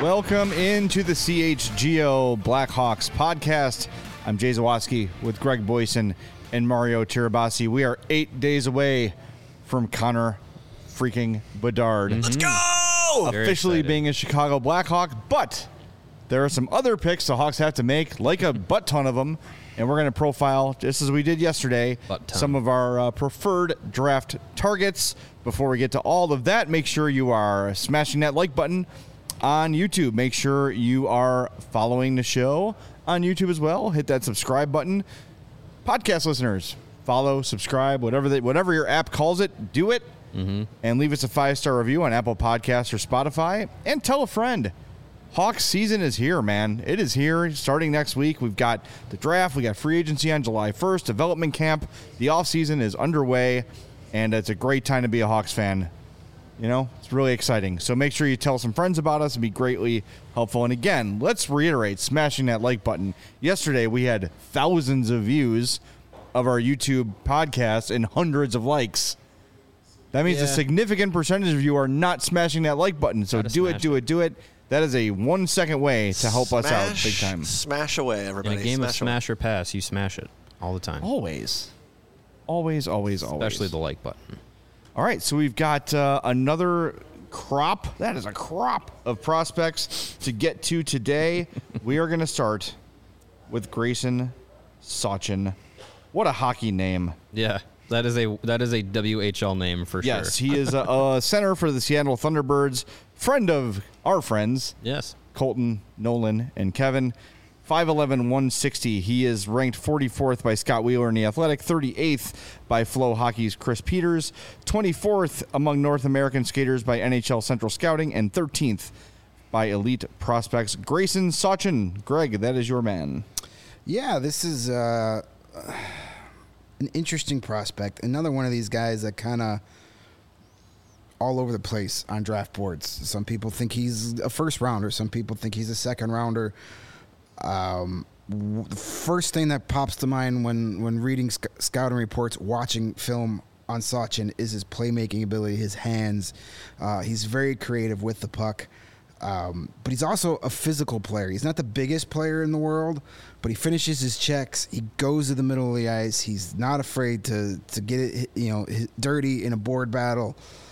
Welcome into the CHGO Blackhawks podcast. I'm Jay Zawaski with Greg Boyson and Mario Tirabassi. We are 8 days away from Connor freaking Bedard. Let's go! Officially being a Chicago Blackhawk, but there are some other picks the Hawks have to make, like a butt ton of them, and we're going to profile, just as we did yesterday, some of our preferred draft targets. Before we get to all of that, make sure you are smashing that like button on YouTube. Make sure you are following the show on YouTube as well. Hit that subscribe button. Podcast listeners, follow, subscribe, whatever your app calls it, do it. And leave us a 5-star review on Apple Podcasts or Spotify. And tell a friend. Hawks season is here, man. It is here. Starting next week, we've got the draft. We got free agency on July 1st. Development camp. The offseason is underway. And it's a great time to be a Hawks fan. You know, it's really exciting. So make sure you tell some friends about us. It'd be greatly helpful. And again, let's reiterate, smashing that like button. Yesterday, we had thousands of views of our YouTube podcast and hundreds of likes. That means a significant percentage of you are not smashing that like button. So do it. That is a 1 second way to help us out big time. Smash away, everybody. In a game of smash or pass, you smash it all the time. Always. Especially the like button. All right, so we've got another crop. That is a crop of prospects to get to today. We are going to start with Grayson Sawchyn. What a hockey name. Yeah. That is a WHL name for sure. Yes, he is a center for the Seattle Thunderbirds, friend of our friends. Yes. Colton, Nolan, and Kevin. 5'11", 160. He is ranked 44th by Scott Wheeler in The Athletic, 38th by Flow Hockey's Chris Peters, 24th among North American skaters by NHL Central Scouting, and 13th by Elite Prospects. Grayson Sawchyn. Greg, that is your man. Yeah, this is an interesting prospect. Another one of these guys that kind of all over the place on draft boards. Some people think he's a first rounder. Some people think he's a second rounder. The first thing that pops to mind when reading scouting reports, watching film on Sawchyn is his playmaking ability, his hands. He's very creative with the puck. But he's also a physical player. He's not the biggest player in the world, but he finishes his checks. He goes to the middle of the ice. He's not afraid to get it, dirty in a board battle.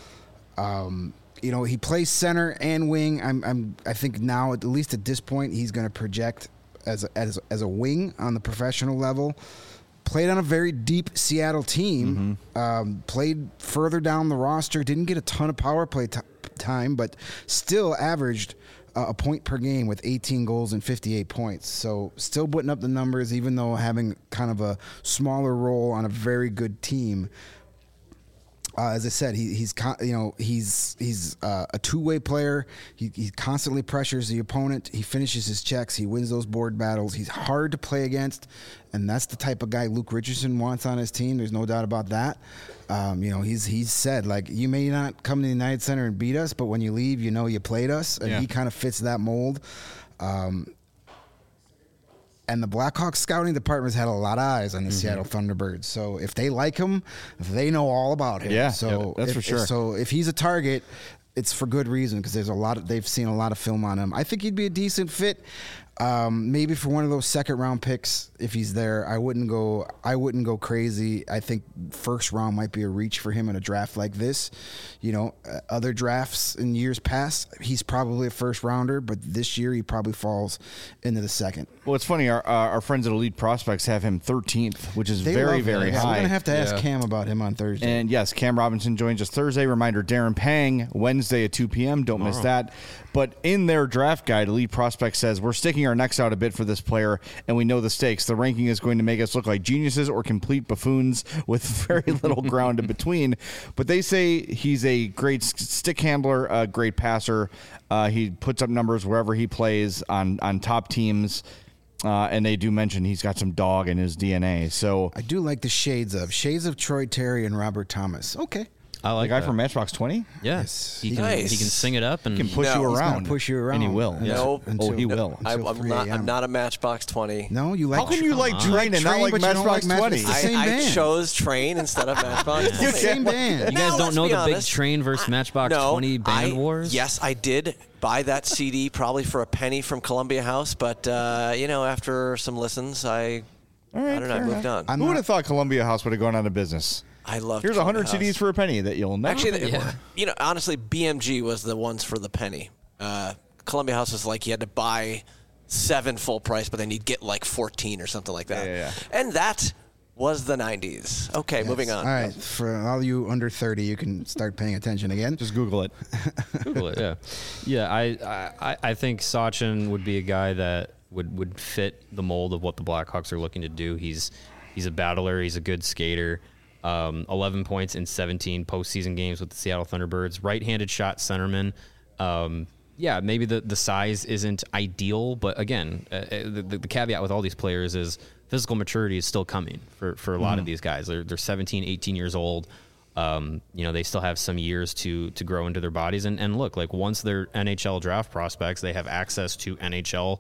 He plays center and wing. I think now, at least at this point, he's going to project as a wing on the professional level. Played on a very deep Seattle team. Played further down the roster. Didn't get a ton of power play time, but still averaged a point per game with 18 goals and 58 points. So still putting up the numbers, even though having kind of a smaller role on a very good team. As I said, he's a two-way player. He constantly pressures the opponent. He finishes his checks. He wins those board battles. He's hard to play against, and that's the type of guy Luke Richardson wants on his team. There's no doubt about that. He's said, like, you may not come to the United Center and beat us, but when you leave, you played us, and he kind of fits that mold. And the Blackhawks scouting department has had a lot of eyes on the Seattle Thunderbirds. So if they like him, they know all about him. Yeah, so that's for sure. So if he's a target, it's for good reason, because they've seen a lot of film on him. I think he'd be a decent fit. Maybe for one of those second round picks, if he's there, I wouldn't go crazy. I think first round might be a reach for him in a draft like this. Other drafts in years past, he's probably a first rounder, but this year he probably falls into the second. Well, it's funny. Our friends at Elite Prospects have him 13th, which is very, very high. We're going to have to ask Cam about him on Thursday. And yes, Cam Robinson joins us Thursday. Reminder, Darren Pang, Wednesday at 2 p.m. Don't miss that. But in their draft guide, Elite Prospects says, we're sticking our necks out a bit for this player, and we know the stakes. The ranking is going to make us look like geniuses or complete buffoons with very little ground in between. But they say he's a great stick handler, a great passer. He puts up numbers wherever he plays on top teams. And they do mention he's got some dog in his DNA. So I do like the shades of Troy Terry and Robert Thomas. Okay. I like the guy that. from Matchbox 20. Yeah, Yes. he can Nice. he can sing it up and He can push No. you He's around. gonna push you around. and he will. Yeah. Nope. He will. Until I'm 3 not. a.m. I'm not a Matchbox 20. No, you like. How can you like Train and not Train, like but you don't Matchbox like 20? Matchbox- It's the same I band. chose Train instead of Matchbox It's the 20. same band. You guys Now, don't let's know be the big honest. Train versus Matchbox 20 band wars? Yes, I did buy that CD probably for a penny from Columbia House, but after some listens, I don't know, I moved on. I'm Who would not- have thought Columbia House would have gone out of business? I love. Here's 100 Columbia CDs House. for a penny that you'll never Actually, Yeah. honestly, BMG was the ones for the penny. Columbia House was like you had to buy 7 full price, but then you'd get like 14 or something like that. Yeah. And that was the 90s. Okay, moving on. All right, for all you under 30, you can start paying attention again. just Google it. Google it, yeah. I think Sachin would be a guy that would fit the mold of what the Blackhawks are looking to do. He's a battler. He's a good skater. 11 points in 17 postseason games with the Seattle Thunderbirds. Right-handed shot centerman. Maybe the size isn't ideal, but again, the caveat with all these players is physical maturity is still coming for a lot of these guys. They're 17, 18 years old. They still have some years to grow into their bodies. And look, like once they're NHL draft prospects, they have access to NHL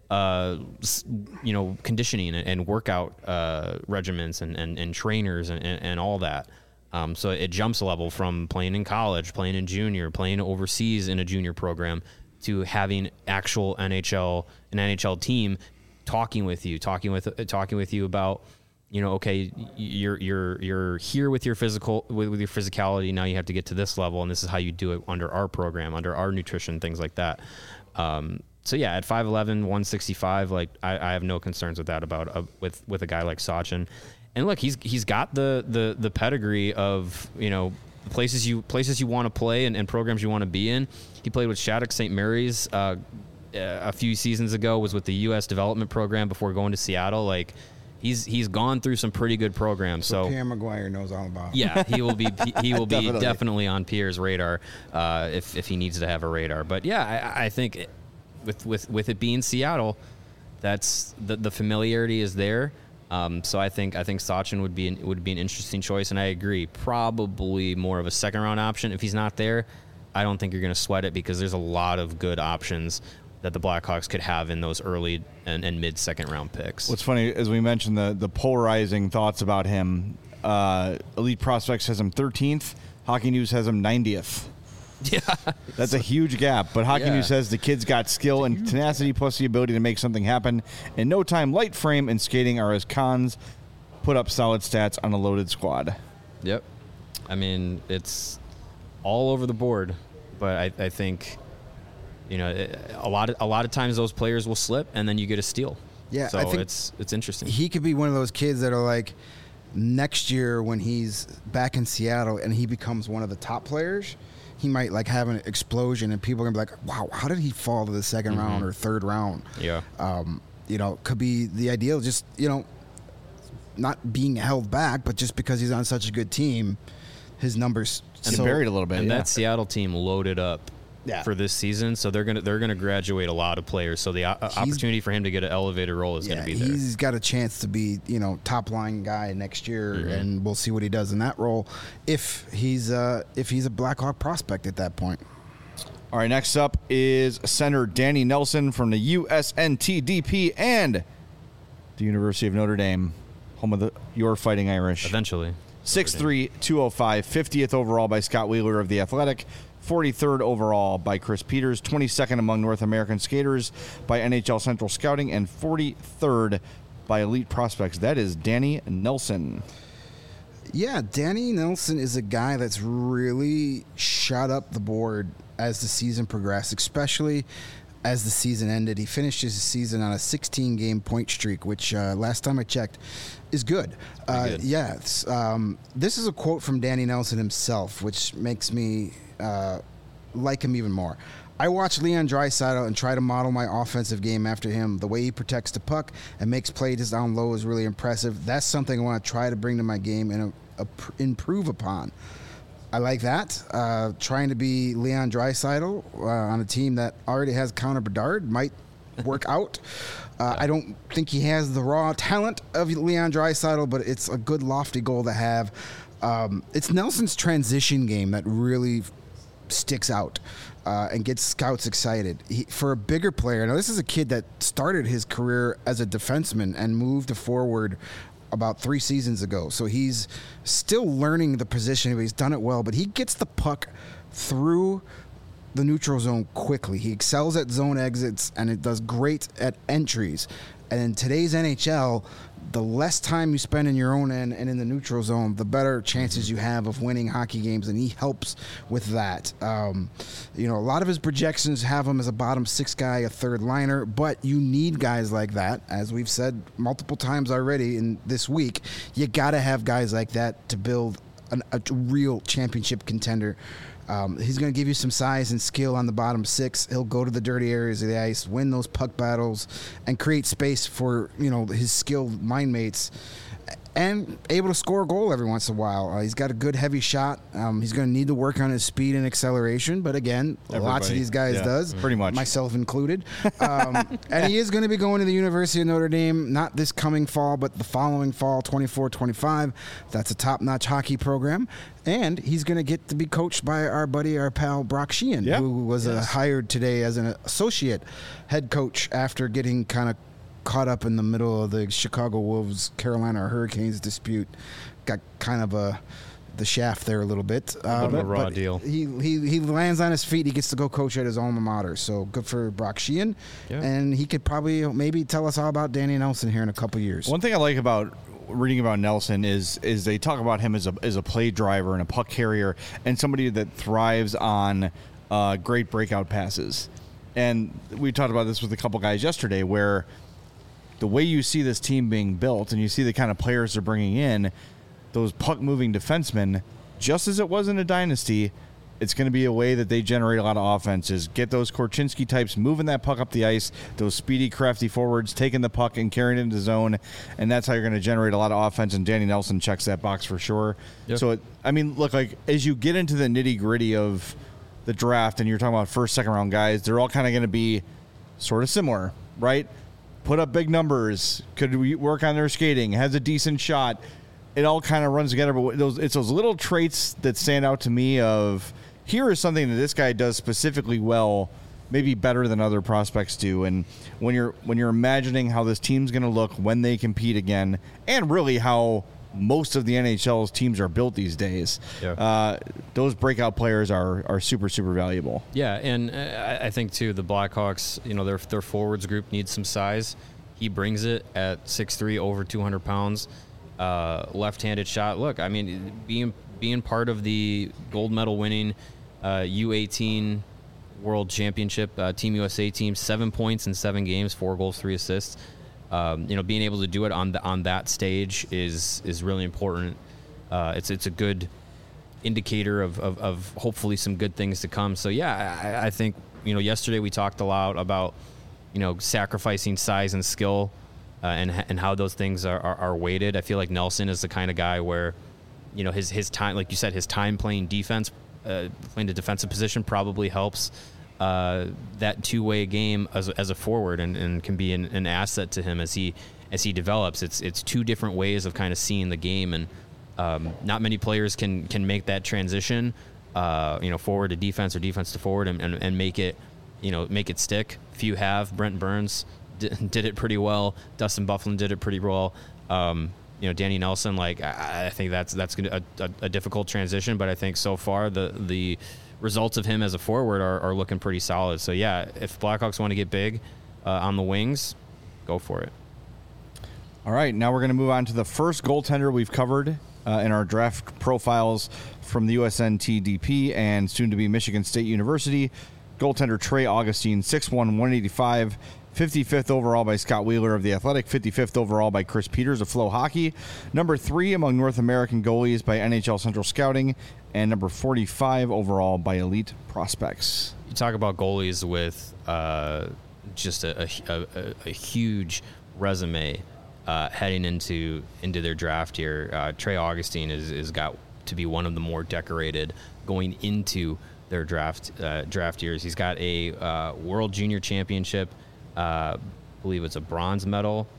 conditioning and workout regimens and trainers and all that. So it jumps a level from playing in college, playing in junior, playing overseas in a junior program to having an NHL team talking with you about, okay, you're here with your with your physicality. Now you have to get to this level, and this is how you do it under our program, under our nutrition, things like that. So yeah, at 5'11", 165, like I have no concerns with that with a guy like Sachin. And look, he's got the pedigree of places you want to play and programs you want to be in. He played with Shattuck St. Mary's a few seasons ago. Was with the U.S. development program before going to Seattle. Like he's gone through some pretty good programs. So Pierre Maguire knows all about. Yeah, he will be definitely on Pierre's radar if he needs to have a radar. But yeah, I think with it being Seattle, that's the familiarity is there. So I think Sachin would be an interesting choice, and I agree, probably more of a second round option. If he's not there, I don't think you're going to sweat it because there's a lot of good options that the Blackhawks could have in those early and mid second round picks. What's funny, as we mentioned, the polarizing thoughts about him, Elite Prospects has him 13th, Hockey News has him 90th. Yeah, that's a huge gap. But Hockey Yeah. News says the kid's got skill and tenacity plus the ability to make something happen. In no time, light frame and skating are his cons. Put up solid stats on a loaded squad. Yep. I mean, it's all over the board, but I think a lot of times those players will slip and then you get a steal. Yeah, so I think it's interesting. He could be one of those kids that are like, next year when he's back in Seattle and he becomes one of the top players, he might like have an explosion and people are gonna be like, wow, how did he fall to the second round or third round? Yeah. Could be the ideal, just, not being held back, but just because he's on such a good team, his numbers And buried a little bit. And yeah. that Seattle team loaded up for this season, so they're gonna graduate a lot of players. So the opportunity for him to get an elevated role is gonna be there. He's got a chance to be, top line guy next year, and we'll see what he does in that role if he's a Blackhawk prospect at that point. All right, next up is center Danny Nelson from the USNTDP and the University of Notre Dame, home of your Fighting Irish. Eventually. 6'3", 205, 50th overall by Scott Wheeler of The Athletic, 43rd overall by Chris Peters, 22nd among North American skaters by NHL Central Scouting, and 43rd by Elite Prospects. That is Danny Nelson. Yeah, Danny Nelson is a guy that's really shot up the board as the season progressed, especially as the season ended. He finished his season on a 16-game point streak, which last time I checked is good. Good. Yeah, this is a quote from Danny Nelson himself, which makes me like him even more. I watch Leon Draisaitl and try to model my offensive game after him. The way he protects the puck and makes plays down low is really impressive. That's something I want to try to bring to my game and improve upon. I like that. Trying to be Leon Draisaitl on a team that already has Connor Bedard might work out. I don't think he has the raw talent of Leon Draisaitl, but it's a good lofty goal to have. It's Nelson's transition game that really sticks out and gets scouts excited. For a bigger player, now this is a kid that started his career as a defenseman and moved to forward about 3 seasons ago. So he's still learning the position, but he's done it well. But he gets the puck through the neutral zone quickly. He excels at zone exits, and it does great at entries. And in today's NHL, the less time you spend in your own end and in the neutral zone, the better chances you have of winning hockey games, and he helps with that. A lot of his projections have him as a bottom 6 guy, a third liner, but you need guys like that. As we've said multiple times already in this week, you got to have guys like that to build a real championship contender. He's going to give you some size and skill on the bottom 6. He'll go to the dirty areas of the ice, win those puck battles, and create space for his skilled mind mates, and able to score a goal every once in a while. He's got a good heavy shot. He's going to need to work on his speed and acceleration, but again, lots of these guys does, pretty much, myself included. And he is going to be going to the University of Notre Dame, not this coming fall, but the following fall, 24-25. That's a top-notch hockey program. And he's going to get to be coached by our pal Brock Sheehan, who was hired today as an associate head coach after getting kind of caught up in the middle of the Chicago Wolves Carolina Hurricanes dispute. Got kind of the shaft there a little bit. A raw deal. He lands on his feet. He gets to go coach at his alma mater. So good for Brock Sheehan. Yeah. And he could probably maybe tell us all about Danny Nelson here in a couple years. One thing I like about reading about Nelson is they talk about him as a play driver and a puck carrier and somebody that thrives on great breakout passes. And we talked about this with a couple guys yesterday, where the way you see this team being built and you see the kind of players they're bringing in, those puck-moving defensemen, just as it was in a dynasty, it's going to be a way that they generate a lot of offenses. Get those Korchinski types moving that puck up the ice, those speedy, crafty forwards taking the puck and carrying it into the zone, and that's how you're going to generate a lot of offense, and Danny Nelson checks that box for sure. Yep. So, look, like as you get into the nitty-gritty of the draft and you're talking about first, second-round guys, they're all kind of going to be sort of similar, right? Put up big numbers, could we work on their skating, has a decent shot. It all kind of runs together, but it's those little traits that stand out to me of, here is something that this guy does specifically well, maybe better than other prospects do. And when you're imagining how this team's going to look when they compete again, and really how most of the NHL's teams are built these days, those breakout players are super, super valuable. Yeah, and I think, too, the Blackhawks, their forwards group needs some size. He brings it at 6'3", over 200 pounds, left-handed shot. Look, being part of the gold medal winning U18 World Championship Team USA team, 7 points in 7 games, 4 goals, 3 assists. Being able to do it on that stage is really important. It's a good indicator of hopefully some good things to come. So I think yesterday we talked a lot about sacrificing size and skill and how those things are weighted. I feel like Nelson is the kind of guy where his time, like you said, his time playing defense, playing the defensive position probably helps that two-way game as a forward and can be an asset to him as he develops. It's 2 different ways of kind of seeing the game, and not many players can make that transition, forward to defense or defense to forward and make it stick. Few have. Brent Burns did it pretty well. Dustin Byfuglien did it pretty well. Danny Nelson, I think that's gonna a difficult transition, but I think so far the results of him as a forward are looking pretty solid. So if Blackhawks want to get big on the wings, go for it. All right, now we're going to move on to the first goaltender we've covered in our draft profiles from the USNTDP and soon to be Michigan State University. Goaltender Trey Augustine, 6'1", 185. 55th overall by Scott Wheeler of The Athletic, 55th overall by Chris Peters of Flow Hockey, number 3 among North American goalies by NHL Central Scouting, and number 45 overall by Elite Prospects. You talk about goalies with just a huge resume heading into their draft here. Trey Augustine is got to be one of the more decorated going into their draft years. He's got a World Junior Championship. I believe it's a bronze medal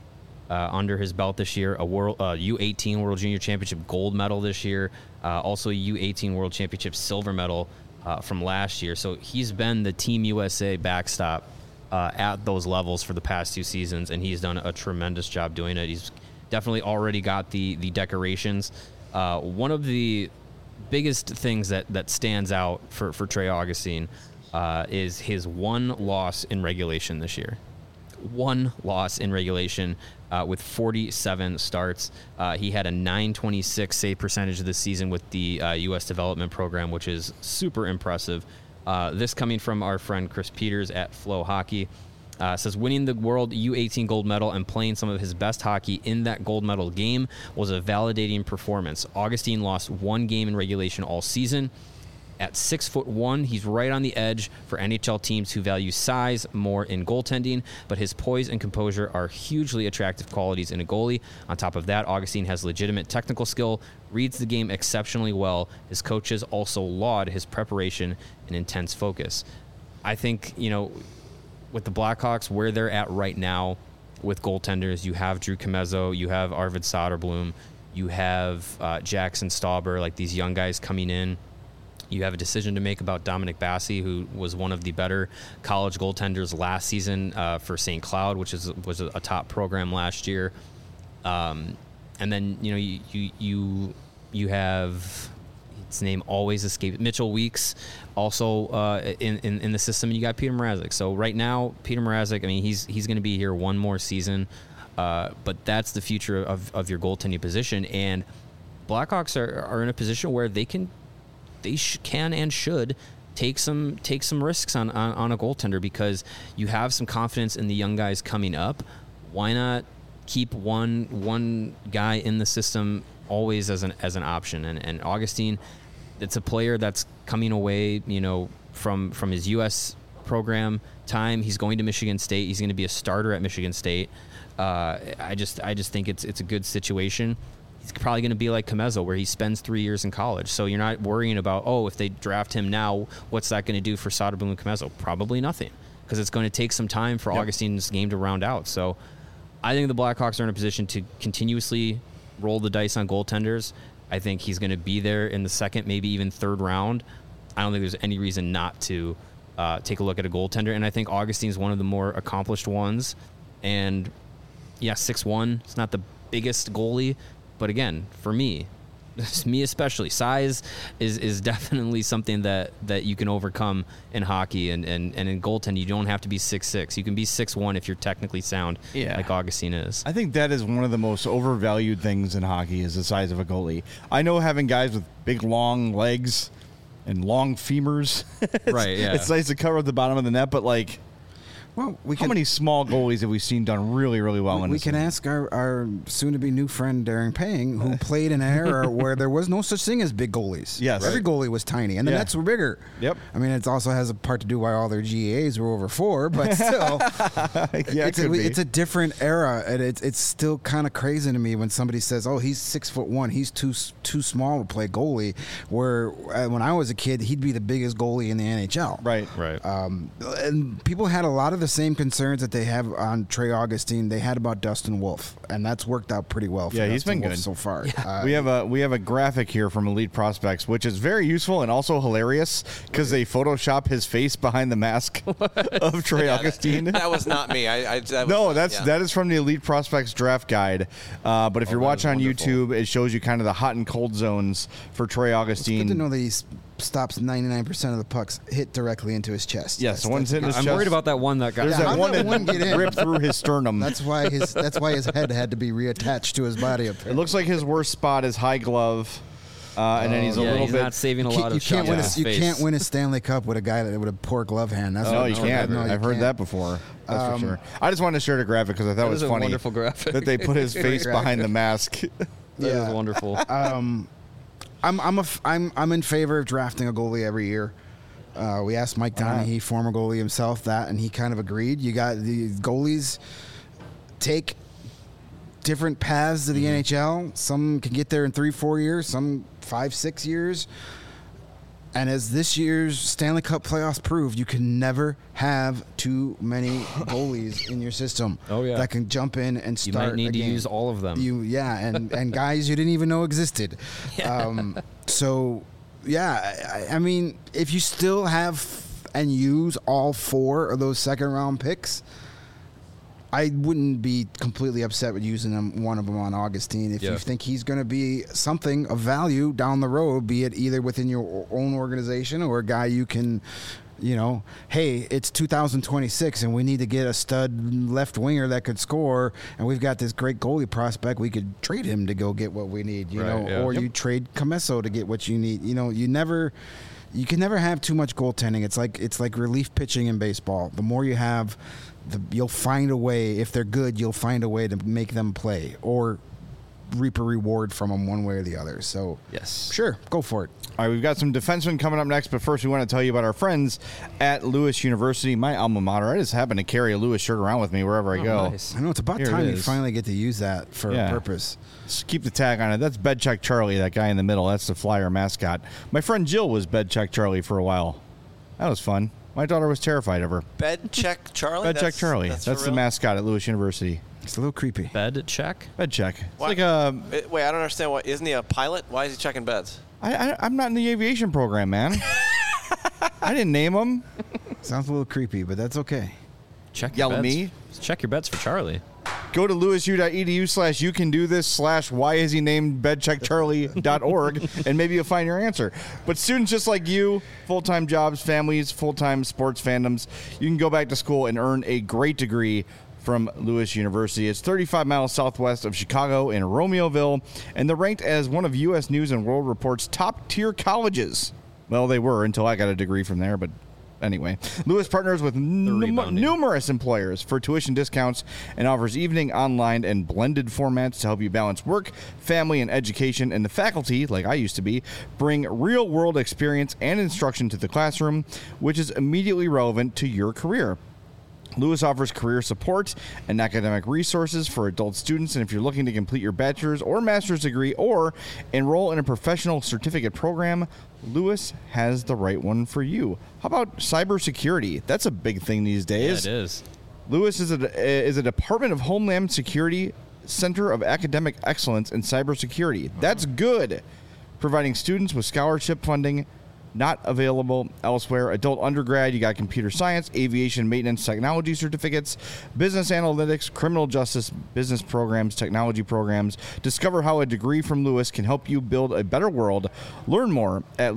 under his belt this year, a world U18 World Junior Championship gold medal this year, also a U18 World Championship silver medal from last year. So he's been the Team USA backstop at those levels for the past 2 seasons, and he's done a tremendous job doing it. He's definitely already got the decorations. One of the biggest things that stands out for Trey Augustine is his one loss in regulation this year. One loss in regulation with 47 starts. He had a .926 save percentage this season with the U.S. Development Program, which is super impressive. This coming from our friend Chris Peters at Flow Hockey. Says winning the World U18 gold medal and playing some of his best hockey in that gold medal game was a validating performance. Augustine lost 1 game in regulation all season. At 6'1", he's right on the edge for NHL teams who value size more in goaltending, but his poise and composure are hugely attractive qualities in a goalie. On top of that, Augustine has legitimate technical skill, reads the game exceptionally well. His coaches also laud his preparation and intense focus. I think, with the Blackhawks, where they're at right now with goaltenders, you have Drew Comezzo, you have Arvid Soderblom, you have Jackson Stauber, like these young guys coming in. You have a decision to make about Dominic Bassi, who was one of the better college goaltenders last season for St. Cloud, which was a top program last year. And then you have, his name always escapes, Mitchell Weeks, also in the system. And you got Peter Mrazek. So right now, Peter Mrazek, he's going to be here one more season, but that's the future of your goaltending position. And Blackhawks are in a position where they can and should take some risks on a goaltender, because you have some confidence in the young guys coming up. Why not keep one guy in the system always as an option? And Augustine, it's a player that's coming away, from his U.S. program time. He's going to Michigan State. He's going to be a starter at Michigan State. I just think it's a good situation. He's probably going to be like Comezzo, where he spends 3 years in college. So you're not worrying about, if they draft him now, what's that going to do for Soderblom and Comezzo? Probably nothing, because it's going to take some time for Augustine's game to round out. So I think the Blackhawks are in a position to continuously roll the dice on goaltenders. I think he's going to be there in the second, maybe even third round. I don't think there's any reason not to take a look at a goaltender. And I think Augustine's one of the more accomplished ones. And, 6'1", it's not the biggest goalie. But again, for me especially, size is definitely something that you can overcome in hockey, and in goaltending, you don't have to be 6'6". You can be 6'1" if you're technically sound, like Augustine is. I think that is one of the most overvalued things in hockey, is the size of a goalie. I know having guys with big, long legs and long femurs, it's nice to cover at the bottom of the net, but how many small goalies have we seen done really, really well in this? We can ask our soon-to-be new friend Darren Pang, who played in an era where there was no such thing as big goalies. Yes. Every goalie was tiny, and the nets were bigger. Yep. It also has a part to do why all their GAs were over 4, but still, it's a different era, and it's still kind of crazy to me when somebody says, he's 6'1", he's too small to play goalie, where when I was a kid, he'd be the biggest goalie in the NHL. Right. And people had a lot of the same concerns that they have on Trey Augustine they had about Dustin Wolf, and that's worked out pretty well for he's Dustin been Wolf good so far. We have a graphic here from Elite Prospects, which is very useful and also hilarious, because they Photoshop his face behind the mask of Trey Augustine. That was not me. That is from the Elite Prospects draft guide. But if you're watching on YouTube, it shows you kind of the hot and cold zones for Trey Augustine. It's good to know that he stops 99% of the pucks hit directly into his chest. Yes, one's hitting his chest. I'm worried about that one that got. There's that one that ripped through his sternum. That's why his head had to be reattached to his body. Apparently. It looks like his worst spot is high glove. And then he's he's not saving a lot of shots. You can't win a Stanley Cup with a guy with a poor glove hand. No, you can't. I've heard that before. That's for sure. I just wanted to share the graphic because I thought it was funny. A wonderful graphic. That they put his face behind the mask. That is wonderful. I'm in favor of drafting a goalie every year. We asked Mike Donaghy, former goalie himself, that, and he kind of agreed. You got the goalies take different paths to the NHL. Some can get there in 3-4 years, some 5-6 years. And as this year's Stanley Cup playoffs proved, you can never have too many goalies in your system that can jump in and start. You might need to use all of them. And guys you didn't even know existed. I mean, if you still have and use all 4 of those second-round picks, I wouldn't be completely upset with using one of them on Augustine. If you think he's going to be something of value down the road, be it either within your own organization or a guy you can, hey, it's 2026 and we need to get a stud left winger that could score, and we've got this great goalie prospect. We could trade him to go get what we need, or you trade Comesso to get what you need. You can never have too much goaltending. It's like relief pitching in baseball. The more you have, you'll find a way. If they're good, you'll find a way to make them play or reap a reward from them one way or the other. So, sure, go for it. All right, we've got some defensemen coming up next, but first we want to tell you about our friends at Lewis University, my alma mater. I just happen to carry a Lewis shirt around with me wherever I go. Nice. I know, it's about time you finally get to use that for a purpose. Just keep the tag on it. That's Bedcheck Charlie, that guy in the middle. That's the Flyer mascot. My friend Jill was Bedcheck Charlie for a while. That was fun. My daughter was terrified of her. Bedcheck Charlie? Bedcheck Charlie. That's the mascot at Lewis University. It's a little creepy. Bed check? Bed check. It's why? like a... Wait, I don't understand. What isn't he a pilot? Why is he checking beds? I'm not in the aviation program, man. I didn't name him. Sounds a little creepy, but that's okay. Check Yell your at beds. me. Check your bets for Charlie. Go to lewisu.edu/youcandothis/whyishenamedbedcheckcharlie.org and maybe you'll find your answer. But students just like you, full-time jobs, families, full-time sports fandoms, you can go back to school and earn a great degree from Lewis University. It's 35 miles southwest of Chicago in Romeoville, and they're ranked as one of U.S. News and World Report's top-tier colleges. Well, they were until I got a degree from there, but anyway. Lewis partners with numerous employers for tuition discounts and offers evening, online, and blended formats to help you balance work, family, and education. And the faculty, like I used to be, bring real-world experience and instruction to the classroom, which is immediately relevant to your career. Lewis offers career support and academic resources for adult students, and if you're looking to complete your bachelor's or master's degree or enroll in a professional certificate program, Lewis has the right one for you. How about cybersecurity? That's a big thing these days. Yeah, it is. Lewis is a Department of Homeland Security Center of Academic Excellence in Cybersecurity. That's good. Providing students with scholarship funding not available elsewhere. Adult undergrad, you got computer science, aviation maintenance technology certificates, business analytics, criminal justice, business programs, technology programs. Discover how a degree from Lewis can help you build a better world. Learn more at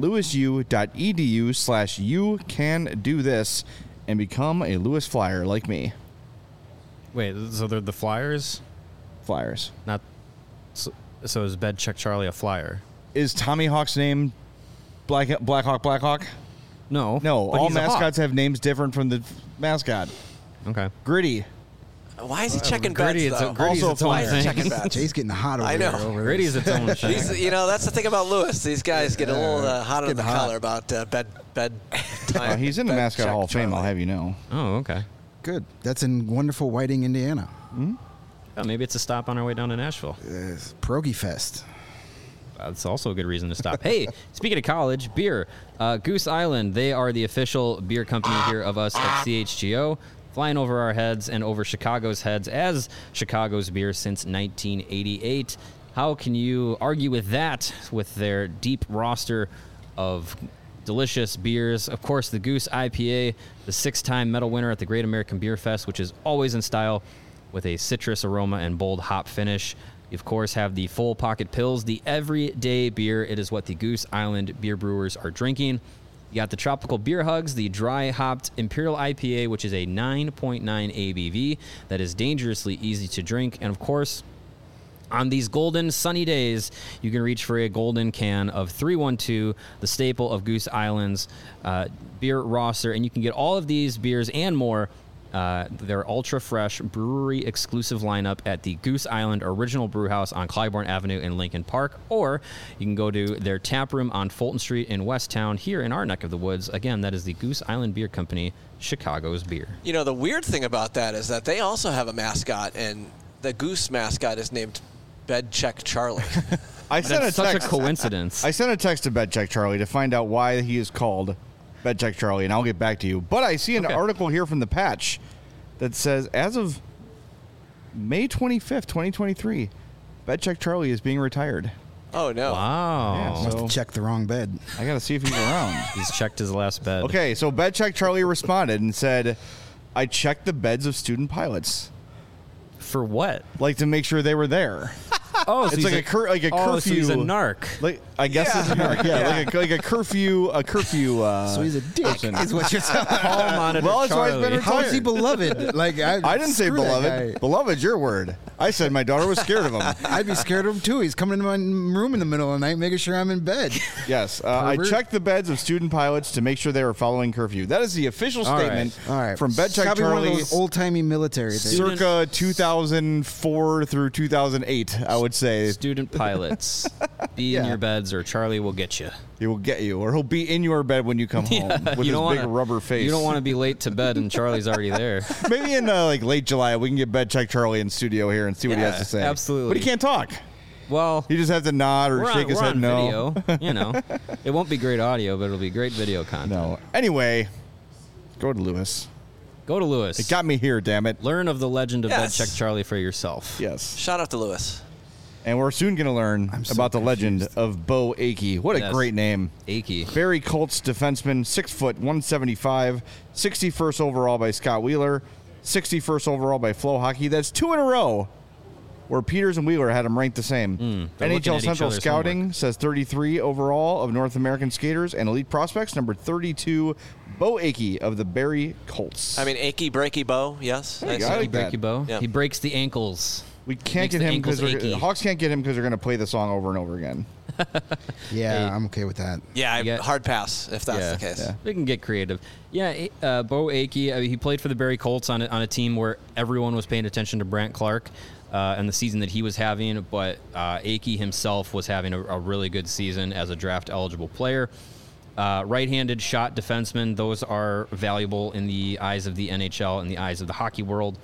lewisu.edu/you-can-do-this and become a Lewis Flyer like me. Wait, so they're the Flyers? Flyers. Not. So is Bedcheck Charlie a Flyer? Is Tommy Hawk's name Blackhawk? No. No, but all he's a mascots have names different from the mascot. Okay. Gritty. Why is he checking Gritty, beds, though? Gritty's Also its own Why is he thing. checking beds? Jay's getting hot over I know. there. Gritty's its own thing. That's the thing about Lewis. These guys get a little hot under the getting hot. collar about bed time. He's in the Mascot Hall of Fame, I'll have you know. Oh, okay. Good. That's in wonderful Whiting, Indiana. Oh, maybe it's a stop on our way down to Nashville. Pierogi Fest. That's also a good reason to stop. Hey, speaking of college, beer. Goose Island, they are the official beer company here of us at CHGO, flying over our heads and over Chicago's heads as Chicago's beer since 1988. How can you argue with that with their deep roster of delicious beers? Of course, the Goose IPA, the 6-time medal winner at the Great American Beer Fest, which is always in style with a citrus aroma and bold hop finish. You, of course, have the Full Pocket Pills, the everyday beer. It is what the Goose Island beer brewers are drinking. You got the Tropical Beer Hugs, the dry hopped Imperial IPA, which is a 9.9 ABV that is dangerously easy to drink. And, of course, on these golden sunny days, you can reach for a golden can of 312, the staple of Goose Island's beer roster. And you can get all of these beers and more, their ultra-fresh brewery-exclusive lineup at the Goose Island Original Brewhouse on Clybourne Avenue in Lincoln Park, or you can go to their tap room on Fulton Street in Westtown here in our neck of the woods. Again, that is the Goose Island Beer Company, Chicago's beer. You know, the weird thing about that is that they also have a mascot, and the Goose mascot is named Bedcheck Charlie. I sent That's a such text. a coincidence. I sent a text to BetCheck Charlie to find out why he is called BetCheck Charlie, and I'll get back to you. But I see an article here from the Patch that says, as of May 25th, 2023, BetCheck Charlie is being retired. Oh, no. Wow. Yeah, Must so have checked the wrong bed. I got to see if he's around. He's checked his last bed. Okay, so BetCheck Charlie responded and said, I checked the beds of student pilots, For what? like to make sure they were there. Oh, It's like a curfew. Oh, so he's a narc. Like I guess it's a narc. Yeah, like a curfew. So he's a dick, person. is what you're telling me. Hall monitor Well, that's why he's been Charlie. How is he retired. beloved? Like I didn't say screw that beloved. guy. Beloved's your word. I said my daughter was scared of him. I'd be scared of him too. He's coming into my room in the middle of the night, making sure I'm in bed. Yes, I Pervert. checked the beds of student pilots to make sure they were following curfew. That is the official All right. statement All right, from BetCheck Gotta be one of Charlie, those old-timey military things. circa 2004 through 2008. I would say Student pilots, be in Yeah. your beds or Charlie will get you. he will get you, or he'll be in your bed when you come home with his big rubber face. You don't want to be late to bed and Charlie's already there. Maybe in like late July we can get BetCheck Charlie in studio here and see what he has Yeah, to say. absolutely. But he can't talk. Well, He just has to nod or we're shake on, his we're head on no. video. You know, it won't be great audio, but it'll be great video content. No. Anyway, go to Lewis. Go to Lewis. It got me here, damn it. Learn of the legend of Yes. BetCheck Charlie for yourself. Yes. Shout out to Lewis. And we're soon going to learn I'm so about the legend confused. of Bo Akey. What a Yes. great name. Achy. Barry Colts defenseman, 6 foot, 175, 61st overall by Scott Wheeler, 61st overall by Flow Hockey. That's 2 in a row where Peters and Wheeler had him ranked the same. they're looking NHL at each Central other's Scouting says 33 overall of North American skaters and elite prospects. Number 32, Bo Akey of the Barry Colts. I mean, achy, breaky bow, yes. There you Nice. go. I He like that. breaky bow. Yeah. He breaks the ankles. we can't makes get the him because ankles achy. Hawks can't get him because they're going to play the song over and over again. Yeah, Hey. I'm okay with that. Yeah, You get- hard pass if that's Yeah. the case. Yeah. They can get creative. Yeah, Bo Akey, he played for the Barry Colts on a team where everyone was paying attention to Brant Clark and the season that he was having, but Akey himself was having a really good season as a draft-eligible player. Right-handed shot defenseman, those are valuable in the eyes of the NHL and the eyes of the hockey world.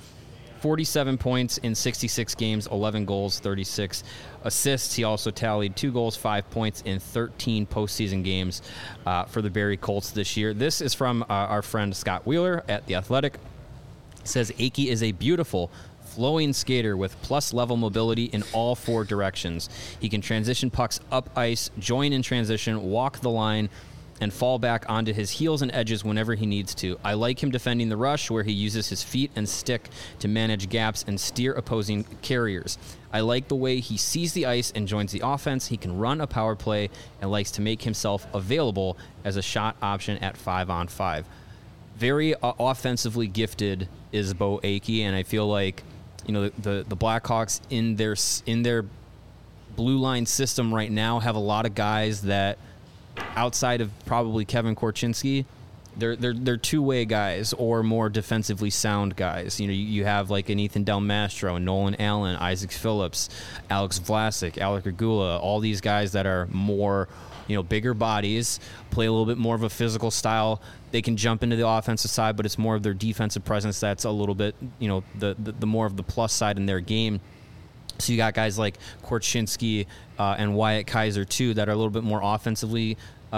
47 points in 66 games, 11 goals, 36 assists. He also tallied 2 goals, 5 points in 13 postseason games for the Barry Colts this year. This is from our friend Scott Wheeler at The Athletic. It says, Akey is a beautiful, flowing skater with plus-level mobility in all 4 directions. He can transition pucks up ice, join in transition, walk the line, and fall back onto his heels and edges whenever he needs to. I like him defending the rush, where he uses his feet and stick to manage gaps and steer opposing carriers. I like the way he sees the ice and joins the offense. He can run a power play and likes to make himself available as a shot option at 5-on-5. Very offensively gifted is Bo Akey, and I feel like the Blackhawks in their blue line system right now have a lot of guys that, outside of probably Kevin Korchinski, they're two-way guys or more defensively sound guys. You have like an Ethan Del Mastro, Nolan Allen, Isaac Phillips, Alex Vlasic, Alec Regula, all these guys that are more, bigger bodies, play a little bit more of a physical style. They can jump into the offensive side, but it's more of their defensive presence that's a little bit, the more of the plus side in their game. So you got guys like Korchinski and Wyatt Kaiser, too, that are a little bit more offensively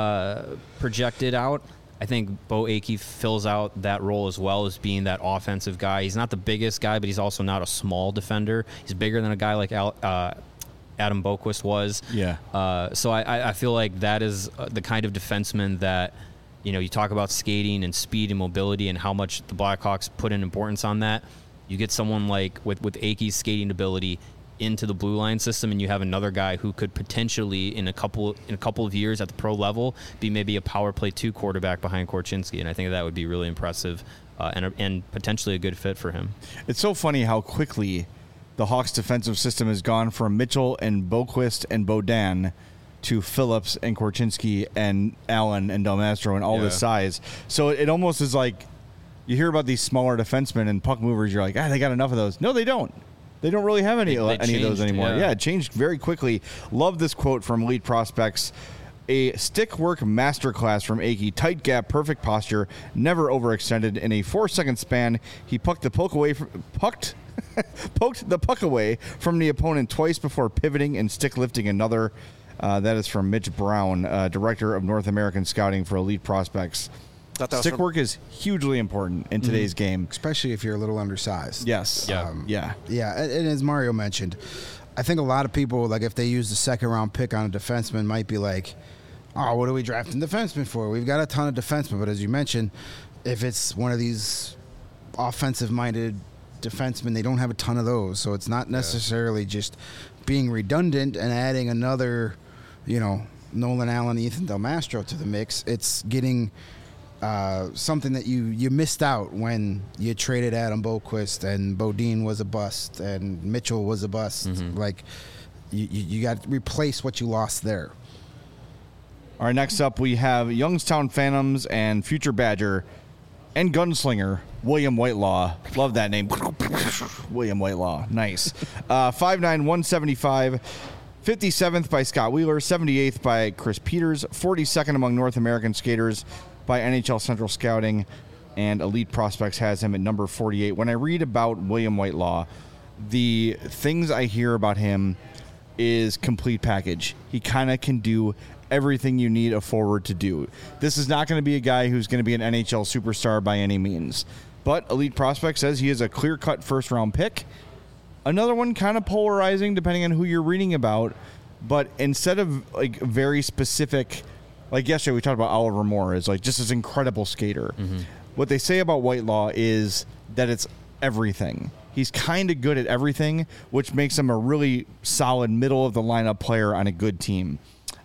projected out. I think Bo Akey fills out that role as well as being that offensive guy. He's not the biggest guy, but he's also not a small defender. He's bigger than a guy like Adam Boquist was. Yeah. So I feel like that is the kind of defenseman that, you talk about skating and speed and mobility and how much the Blackhawks put an importance on that. You get someone like with Akey's skating ability into the blue line system, and you have another guy who could potentially in a couple of years at the pro level be maybe a power play 2 quarterback behind Korchinski, and I think that would be really impressive and potentially a good fit for him. It's so funny how quickly the Hawks defensive system has gone from Mitchell and Boquist and Beaudin to Phillips and Korchinski and Allen and Del Mastro and all this size. So it almost is like you hear about these smaller defensemen and puck movers, you're like, they got enough of those. No, they don't. They don't really have any of those changed, anymore. yeah. Yeah, it changed very quickly. Love this quote from Elite Prospects. A stick work masterclass from Akey. Tight gap, perfect posture, never overextended. In a 4-second span, he pucked the puck away poked the puck away from the opponent twice before pivoting and stick lifting another. That is from Mitch Brown, Director of North American Scouting for Elite Prospects. Stick work is hugely important in today's game, especially if you're a little undersized. Yes. Yeah. And as Mario mentioned, I think a lot of people, like, if they use the second round pick on a defenseman, might be like, "Oh, what are we drafting defensemen for? We've got a ton of defensemen." But as you mentioned, if it's one of these offensive-minded defensemen, they don't have a ton of those, so it's not necessarily just being redundant and adding another, Nolan Allen, Ethan Del Mastro to the mix. It's getting something that you missed out when you traded Adam Boqvist and Bodine was a bust and Mitchell was a bust. Like, you got to replace what you lost there. All right, next up we have Youngstown Phantoms and future Badger and gunslinger William Whitelaw. Love that name. William Whitelaw. Nice. 5'9", 175. 57th by Scott Wheeler. 78th by Chris Peters. 42nd among North American skaters by NHL Central Scouting, and Elite Prospects has him at number 48. When I read about William Whitelaw, the things I hear about him is complete package. He kind of can do everything you need a forward to do. This is not going to be a guy who's going to be an NHL superstar by any means, but Elite Prospect says he is a clear-cut first-round pick. Another one kind of polarizing depending on who you're reading about, but instead of like very specific, like yesterday we talked about Oliver Moore as like just this incredible skater. What they say about Whitelaw is that it's everything. He's kind of good at everything, which makes him a really solid middle-of-the-lineup player on a good team.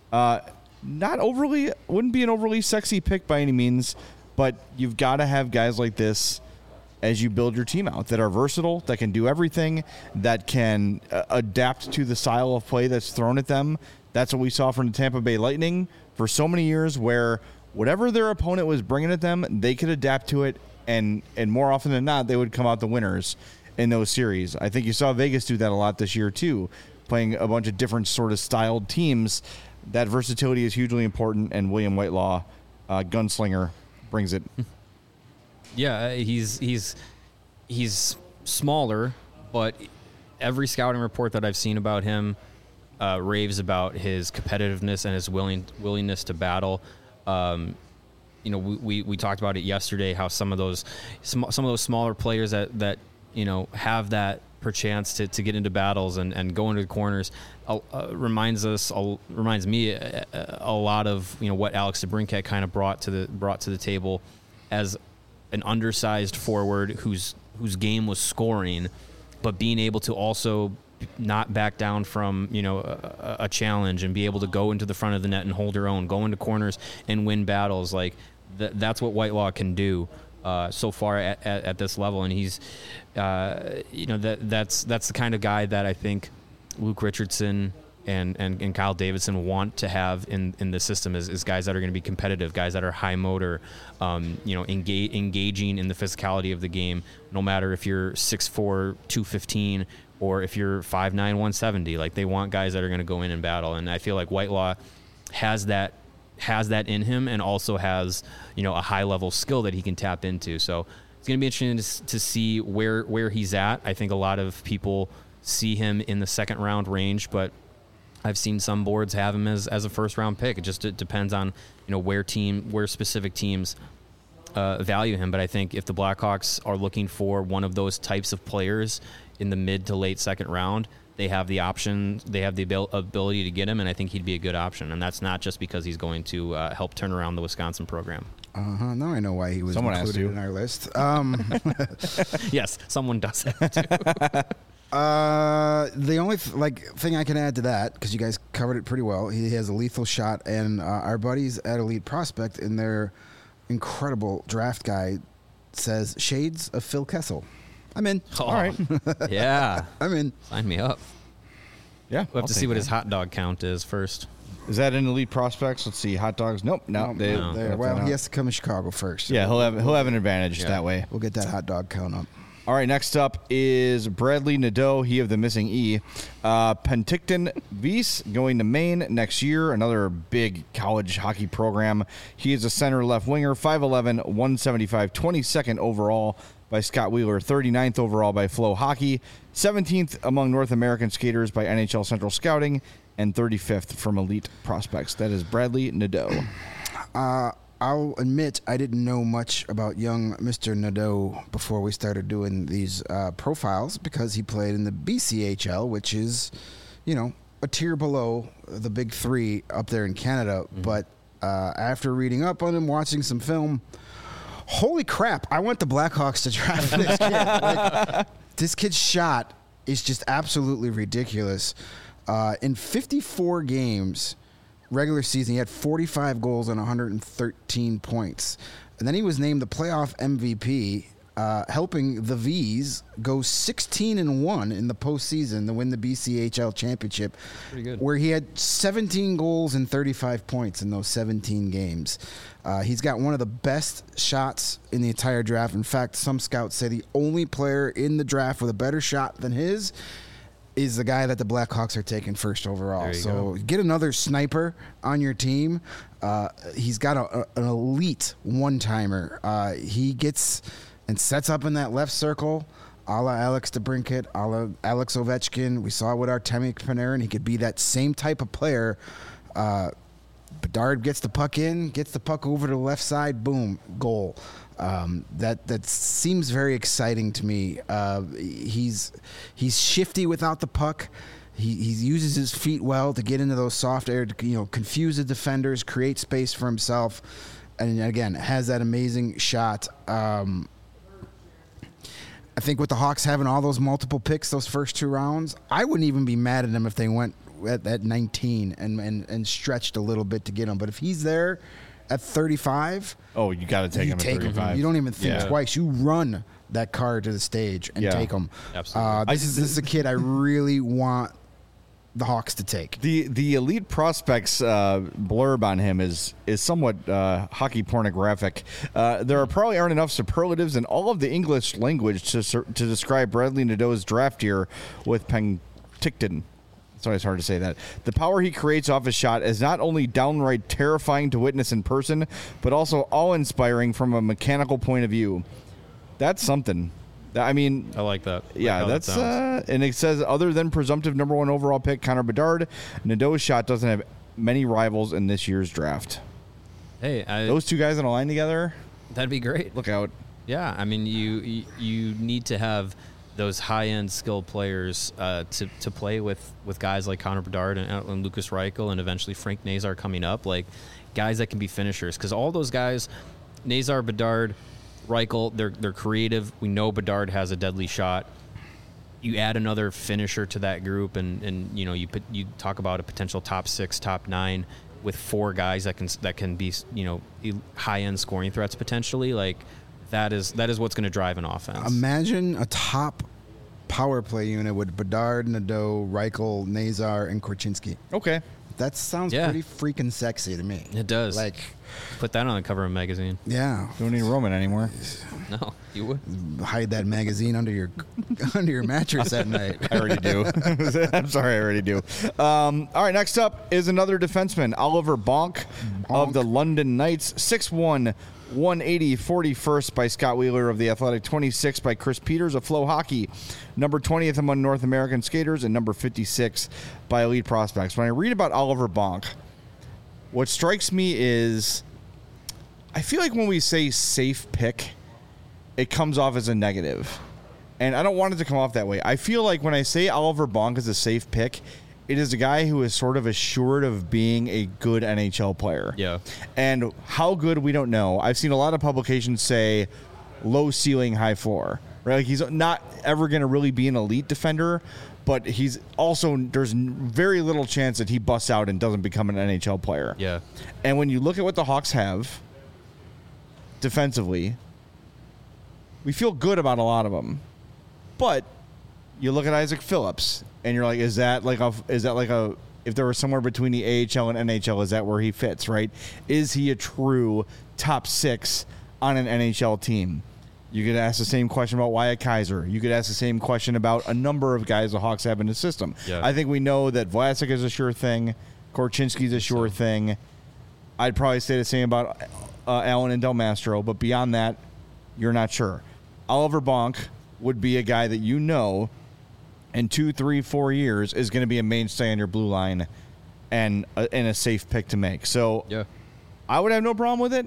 Wouldn't be an overly sexy pick by any means, but you've got to have guys like this as you build your team out that are versatile, that can do everything, that can adapt to the style of play that's thrown at them. That's what we saw from the Tampa Bay Lightning for so many years, where whatever their opponent was bringing at them, they could adapt to it, and more often than not, they would come out the winners in those series. I think you saw Vegas do that a lot this year too, playing a bunch of different sort of styled teams. That versatility is hugely important, and William Whitelaw, gunslinger, brings it. Yeah, he's smaller, but every scouting report that I've seen about him raves about his competitiveness and his willingness to battle. We talked about it yesterday, how some of those smaller players that have that perchance to get into battles and go into the corners reminds me a lot of what Alex DeBrincat kind of brought to the table as an undersized forward whose game was scoring, but being able to also not back down from a challenge and be able to go into the front of the net and hold your own, go into corners and win battles. Like that's what Whitelaw can do so far at this level, and he's that's the kind of guy that I think Luke Richardson and Kyle Davidson want to have in the system is guys that are going to be competitive, guys that are high motor, engaging in the physicality of the game, no matter if you're 6'4", 215, or if you're 5'9", 170. Like, they want guys that are going to go in and battle, and I feel like Whitelaw has that in him, and also has a high level skill that he can tap into. So it's going to be interesting to see where he's at. I think a lot of people see him in the second round range, but I've seen some boards have him as a first round pick. It depends on where specific teams value him. But I think if the Blackhawks are looking for one of those types of players in the mid to late second round, they have the option, they have the ability to get him, and I think he'd be a good option. And that's not just because he's going to help turn around the Wisconsin program. Now I know why he was included in our list. Yes, someone does that too. The only thing I can add to that, because you guys covered it pretty well, he has a lethal shot, and our buddies at Elite Prospect in their incredible draft guide says shades of Phil Kessel. I'm in. Oh, all right. Yeah. I'm in. Sign me up. Yeah. We'll have to see what his hot dog count is first. Is that in Elite Prospects? Let's see. Hot dogs? Nope. No. Well, he has to come to Chicago first. So yeah, he'll have an advantage that way. We'll get that hot dog count up. All right, next up is Bradley Nadeau, he of the missing E. Penticton Weiss going to Maine next year, another big college hockey program. He is a center left winger, 5'11", 175, 22nd overall by Scott Wheeler, 39th overall by Flow Hockey, 17th among North American skaters by NHL Central Scouting, and 35th from Elite Prospects. That is Bradley Nadeau. I'll admit I didn't know much about young Mr. Nadeau before we started doing these profiles because he played in the BCHL, which is, a tier below the big three up there in Canada. Mm-hmm. But after reading up on him, watching some film, holy crap, I want the Blackhawks to draft this kid. This kid's shot is just absolutely ridiculous. In 54 games, regular season, he had 45 goals and 113 points. And then he was named the playoff MVP, helping the Vs go 16-1 in the postseason to win the BCHL championship. Pretty good. Where he had 17 goals and 35 points in those 17 games. He's got one of the best shots in the entire draft. In fact, some scouts say the only player in the draft with a better shot than his is the guy that the Blackhawks are taking first overall. So get another sniper on your team. He's got an elite one-timer. He gets and sets up in that left circle, a la Alex DeBrincat, a la Alex Ovechkin. We saw with Artemi Panarin. He could be that same type of player. Bedard gets the puck in, gets the puck over to the left side, boom, goal. That seems very exciting to me. He's shifty without the puck. He uses his feet well to get into those soft air, to confuse the defenders, create space for himself, and again has that amazing shot. I think with the Hawks having all those multiple picks those first two rounds, I wouldn't even be mad at them if they went at 19 and stretched a little bit to get him. But if he's there at 35, oh, you got to take him at 35. You don't even think twice. You run that car to the stage and take him. Absolutely. This is a kid I really want the Hawks to take. The Elite Prospects blurb on him is somewhat hockey pornographic. There probably aren't enough superlatives in all of the English language to describe Bradley Nadeau's draft year with Penticton. It's always hard to say that. The power he creates off his shot is not only downright terrifying to witness in person, but also awe-inspiring from a mechanical point of view. That's something. I mean, I like that. Yeah, that's and it says other than presumptive number 1 overall pick Connor Bedard, Nadeau's shot doesn't have many rivals in this year's draft. Hey, those two guys on a line together, that'd be great. Look out. Yeah, I mean, you need to have those high-end skilled players to play with guys like Connor Bedard and Lucas Reichel and eventually Frank Nazar coming up, like guys that can be finishers. Because all those guys, Nazar, Bedard, Reichel, they're creative. We know Bedard has a deadly shot. You add another finisher to that group, and you talk about a potential top 6, top 9 with 4 guys that can be high-end scoring threats potentially. Like that is what's going to drive an offense. Imagine a top power play unit with Bedard, Nadeau, Reichel, Nazar, and Korchinski. Okay. That sounds pretty freaking sexy to me. It does. Like, put that on the cover of a magazine. Yeah. Don't need Roman anymore. No, you would. Hide that magazine under your mattress at night. I already do. I'm sorry, I already do. All right, next up is another defenseman, Oliver Bonk of the London Knights, 6'1", 180, 41st by Scott Wheeler of The Athletic, 26 by Chris Peters of Flow Hockey, number 20th among North American skaters, and number 56 by Elite Prospects. When I read about Oliver Bonk, what strikes me is I feel like when we say safe pick, it comes off as a negative. And I don't want it to come off that way. I feel like when I say Oliver Bonk is a safe pick, it is a guy who is sort of assured of being a good NHL player. Yeah. And how good, we don't know. I've seen a lot of publications say low ceiling, high floor. Right? Like he's not ever going to really be an elite defender, but he's also, there's very little chance that he busts out and doesn't become an NHL player. Yeah. And when you look at what the Hawks have defensively, we feel good about a lot of them. But you look at Isaac Phillips, and you're like, is that like a if there was somewhere between the AHL and NHL, is that where he fits, right? Is he a true top 6 on an NHL team? You could ask the same question about Wyatt Kaiser. You could ask the same question about a number of guys the Hawks have in the system. Yeah. I think we know that Vlasic is a sure thing. Korchinski's a sure thing. I'd probably say the same about Allen and Del Mastro, but beyond that, you're not sure. Oliver Bonk would be a guy that in 2, 3, 4 years is going to be a mainstay on your blue line and a safe pick to make. So I would have no problem with it.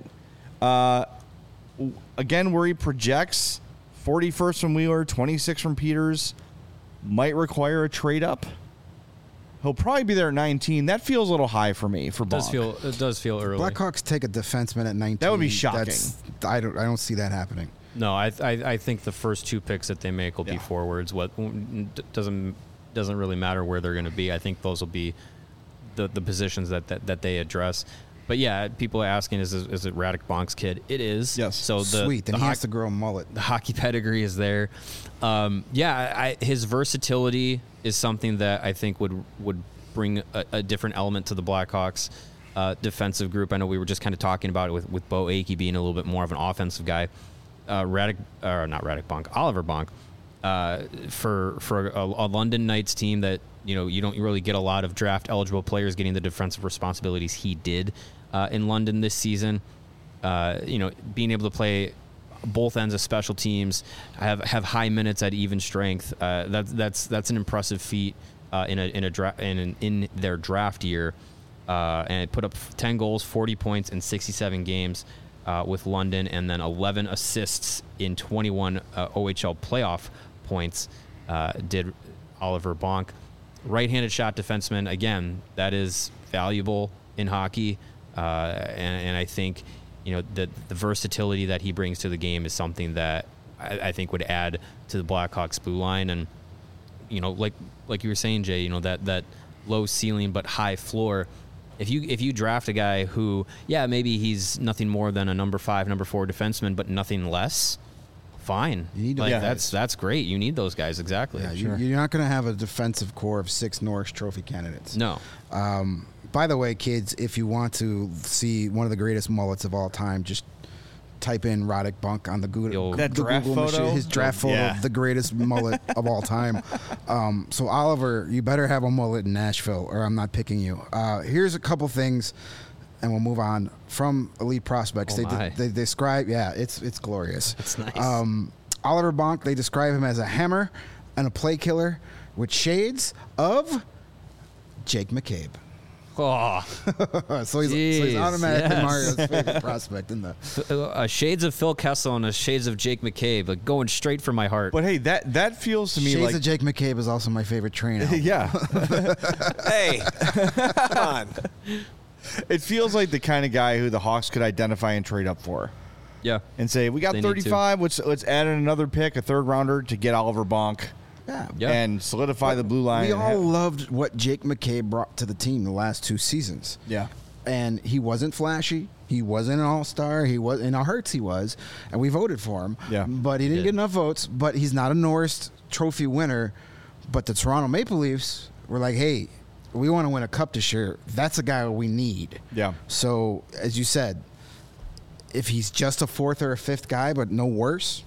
Again, where he projects 41st from Wheeler, 26 from Peters, might require a trade up. He'll probably be there at 19. That feels a little high for me for Bonk. It does feel early. Blackhawks take a defenseman at 19. That would be shocking. I don't see that happening. No, I think the first 2 picks that they make will be forwards. What doesn't really matter where they're going to be. I think those will be the positions that they address. But yeah, people are asking, is it Radek Bonk's kid? It is. Yes. So Sweet. Then he has to grow a mullet. The hockey pedigree is there. His versatility is something that I think would bring a different element to the Blackhawks defensive group. I know we were just kind of talking about it with Bo Akey being a little bit more of an offensive guy. Oliver Bonk, for a London Knights team that you don't really get a lot of draft eligible players getting the defensive responsibilities he did in London this season. Being able to play both ends of special teams, have high minutes at even strength. That's an impressive feat in their draft year, and put up 10 goals, 40 points in 67 games. With London, and then 11 assists in 21 OHL playoff points did Oliver Bonk. Right-handed shot defenseman, again, that is valuable in hockey, and I think the versatility that he brings to the game is something that I think would add to the Blackhawks blue line. And like you were saying, Jay, that low ceiling but high floor. If you draft a guy who, maybe he's nothing more than a number 5, number 4 defenseman, but nothing less, fine. You need that's great. You need those guys, exactly. Yeah, you're not going to have a defensive core of 6 Norris Trophy candidates. No. By the way, kids, if you want to see one of the greatest mullets of all time, just type in Radek Bonk on the Google photo? His draft photo of the greatest mullet of all time. So Oliver, you better have a mullet in Nashville, or I'm not picking you. Here's a couple things, and we'll move on from Elite Prospects. They describe, it's glorious. It's nice. Oliver Bonk, they describe him as a hammer and a play killer with shades of Jake McCabe. Oh, so he's automatically Mario's favorite prospect in the shades of Phil Kessel and a shades of Jake McCabe, like going straight from my heart. But hey, that feels to me shades like of Jake McCabe is also my favorite train album. Yeah. Hey, come on. It feels like the kind of guy who the Hawks could identify and trade up for. Yeah, and say we got 35. Let's add in another pick, a 3rd rounder to get Oliver Bonk. Yeah. And solidify the blue line. We all loved what Jake McCabe brought to the team the last 2 seasons. Yeah. And he wasn't flashy. He wasn't an all-star. He was in our hearts. He was, and we voted for him. Yeah. But he didn't get enough votes. But he's not a Norris Trophy winner. But the Toronto Maple Leafs were like, hey, we want to win a cup this year. That's a guy we need. Yeah. So as you said, if he's just a 4th or a 5th guy, but no worse.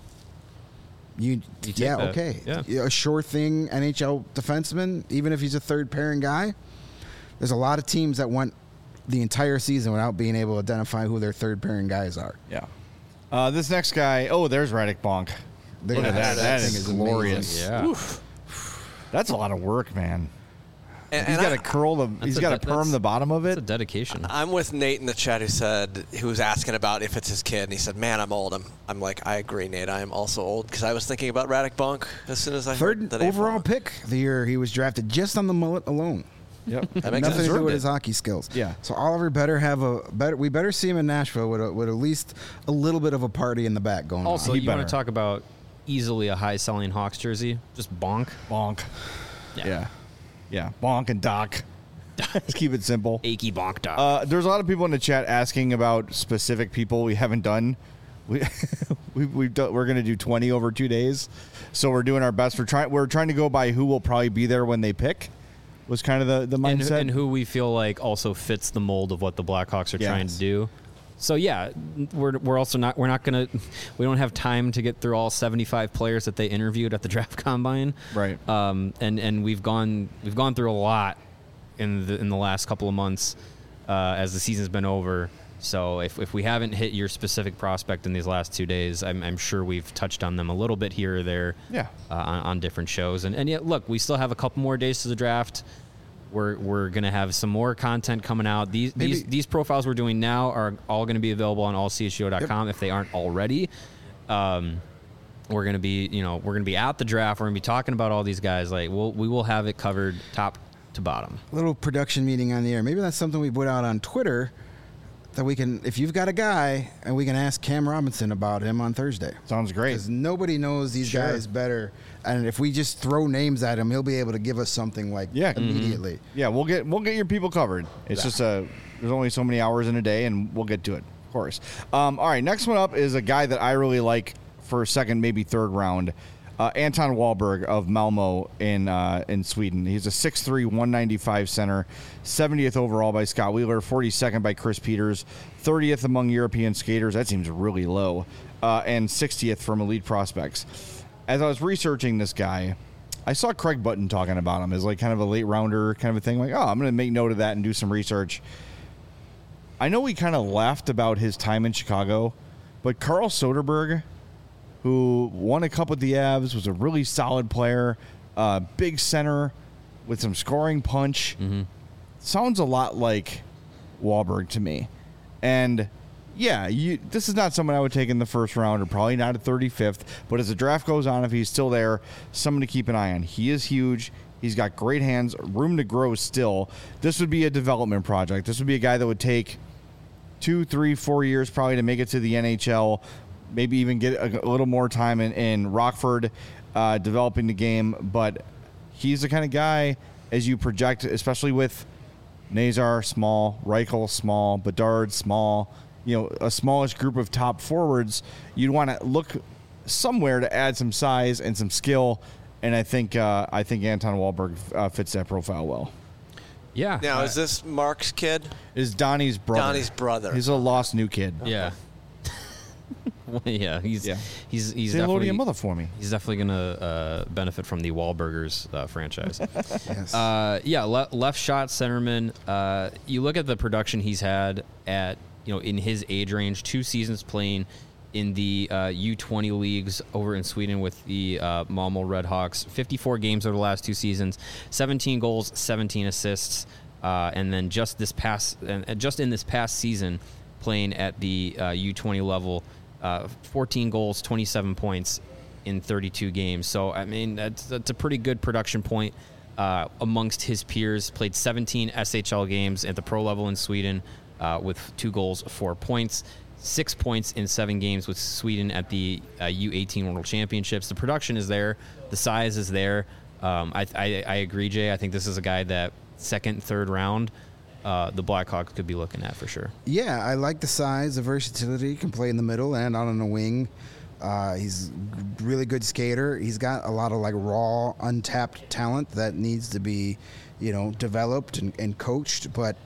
Okay. Yeah. A sure thing NHL defenseman, even if he's a 3rd pairing guy. There's a lot of teams that went the entire season without being able to identify who their 3rd pairing guys are. Yeah. This next guy, there's Radek Bonk. Look at that. That is glorious. Yeah. Oof. That's a lot of work, man. And he's got to curl he's got to perm the bottom of it. It's a dedication. I'm with Nate in the chat who was asking about if it's his kid, and he said, "Man, I'm old." I'm like, I agree, Nate. I am also old because I was thinking about Radek Bonk as soon as I heard that. 3rd overall pick the year he was drafted, just on the mullet alone. Yep, that makes nothing sense. to do with his hockey skills. Yeah. So Oliver we better see him in Nashville with at least a little bit of a party in the back going on. Also, you want to talk about easily a high selling Hawks jersey? Just Bonk. Yeah. Bonk and Doc. Let's keep it simple. Achy Bonk Doc. There's a lot of people in the chat asking about specific people we haven't done. We're going to do 20 over 2 days, so we're doing our best. We're trying to go by who will probably be there when they pick. Was kind of the mindset, and who we feel like also fits the mold of what the Blackhawks are trying to do. So yeah, we're also not we don't have time to get through all 75 players that they interviewed at the draft combine. Right. And we've gone through a lot in the last couple of months as the season's been over. So if we haven't hit your specific prospect in these last 2 days, I'm sure we've touched on them a little bit here or there on different shows. And yet, look, we still have a couple more days to the draft. We're going to have some more content coming out. These profiles we're doing now are all going to be available on allchgo.com if they aren't already. We're going to be at the draft. We're going to be talking about all these guys. Like we will have it covered top to bottom. Little production meeting on the air. Maybe that's something we put out on Twitter that we can, if you've got a guy, and we can ask Cam Robinson about him on Thursday. Sounds great. Because nobody knows these guys better. And if we just throw names at him, he'll be able to give us something immediately. Yeah, we'll get your people covered. It's just there's only so many hours in a day, and we'll get to it, of course. All right, next one up is a guy that I really like for second, maybe third round. Anton Wahlberg of Malmo in Sweden. He's a 6'3", 195 center, 70th overall by Scott Wheeler, 42nd by Chris Peters, 30th among European skaters. That seems really low, and 60th from Elite Prospects. As I was researching this guy, I saw Craig Button talking about him as like kind of a late rounder kind of a thing. Like, I'm going to make note of that and do some research. I know we kind of laughed about his time in Chicago, but Carl Soderberg, who won a cup with the Avs, was a really solid player, big center with some scoring punch. Mm-hmm. Sounds a lot like Wahlberg to me. And, yeah, this is not someone I would take in the first round, or probably not at 35th, but as the draft goes on, if he's still there, someone to keep an eye on. He is huge. He's got great hands, room to grow still. This would be a development project. This would be a guy that would take 2, 3, 4 years probably to make it to the NHL, maybe even get a little more time in Rockford developing the game. But he's the kind of guy, as you project, especially with Nazar, small, Reichel, small, Bedard, small, a smallish group of top forwards, you'd want to look somewhere to add some size and some skill. And I think Anton Wahlberg fits that profile well. Yeah. Now, is this Mark's kid? Is Donnie's brother. Donnie's brother. He's a lost new kid. Yeah. Well, yeah, he's Say definitely hello to your mother for me. He's definitely gonna benefit from the Wahlburgers franchise. Yes. Left shot centerman. You look at the production he's had at in his age range, 2 seasons playing in the U20 leagues over in Sweden with the Malmo Redhawks. 54 games over the last 2 seasons, 17 goals, 17 assists, and then just in this past season, playing at the U20 level, 14 goals, 27 points in 32 games. So, I mean, that's a pretty good production point amongst his peers. Played 17 SHL games at the pro level in Sweden with 2 goals, 4 points. 6 points in 7 games with Sweden at the U18 World Championships. The production is there. The size is there. I agree, Jay. I think this is a guy that second, third round, the Blackhawks could be looking at for sure. Yeah, I like the size, the versatility. He can play in the middle and out on the wing. He's a really good skater. He's got a lot of raw, untapped talent that needs to be, developed and coached. But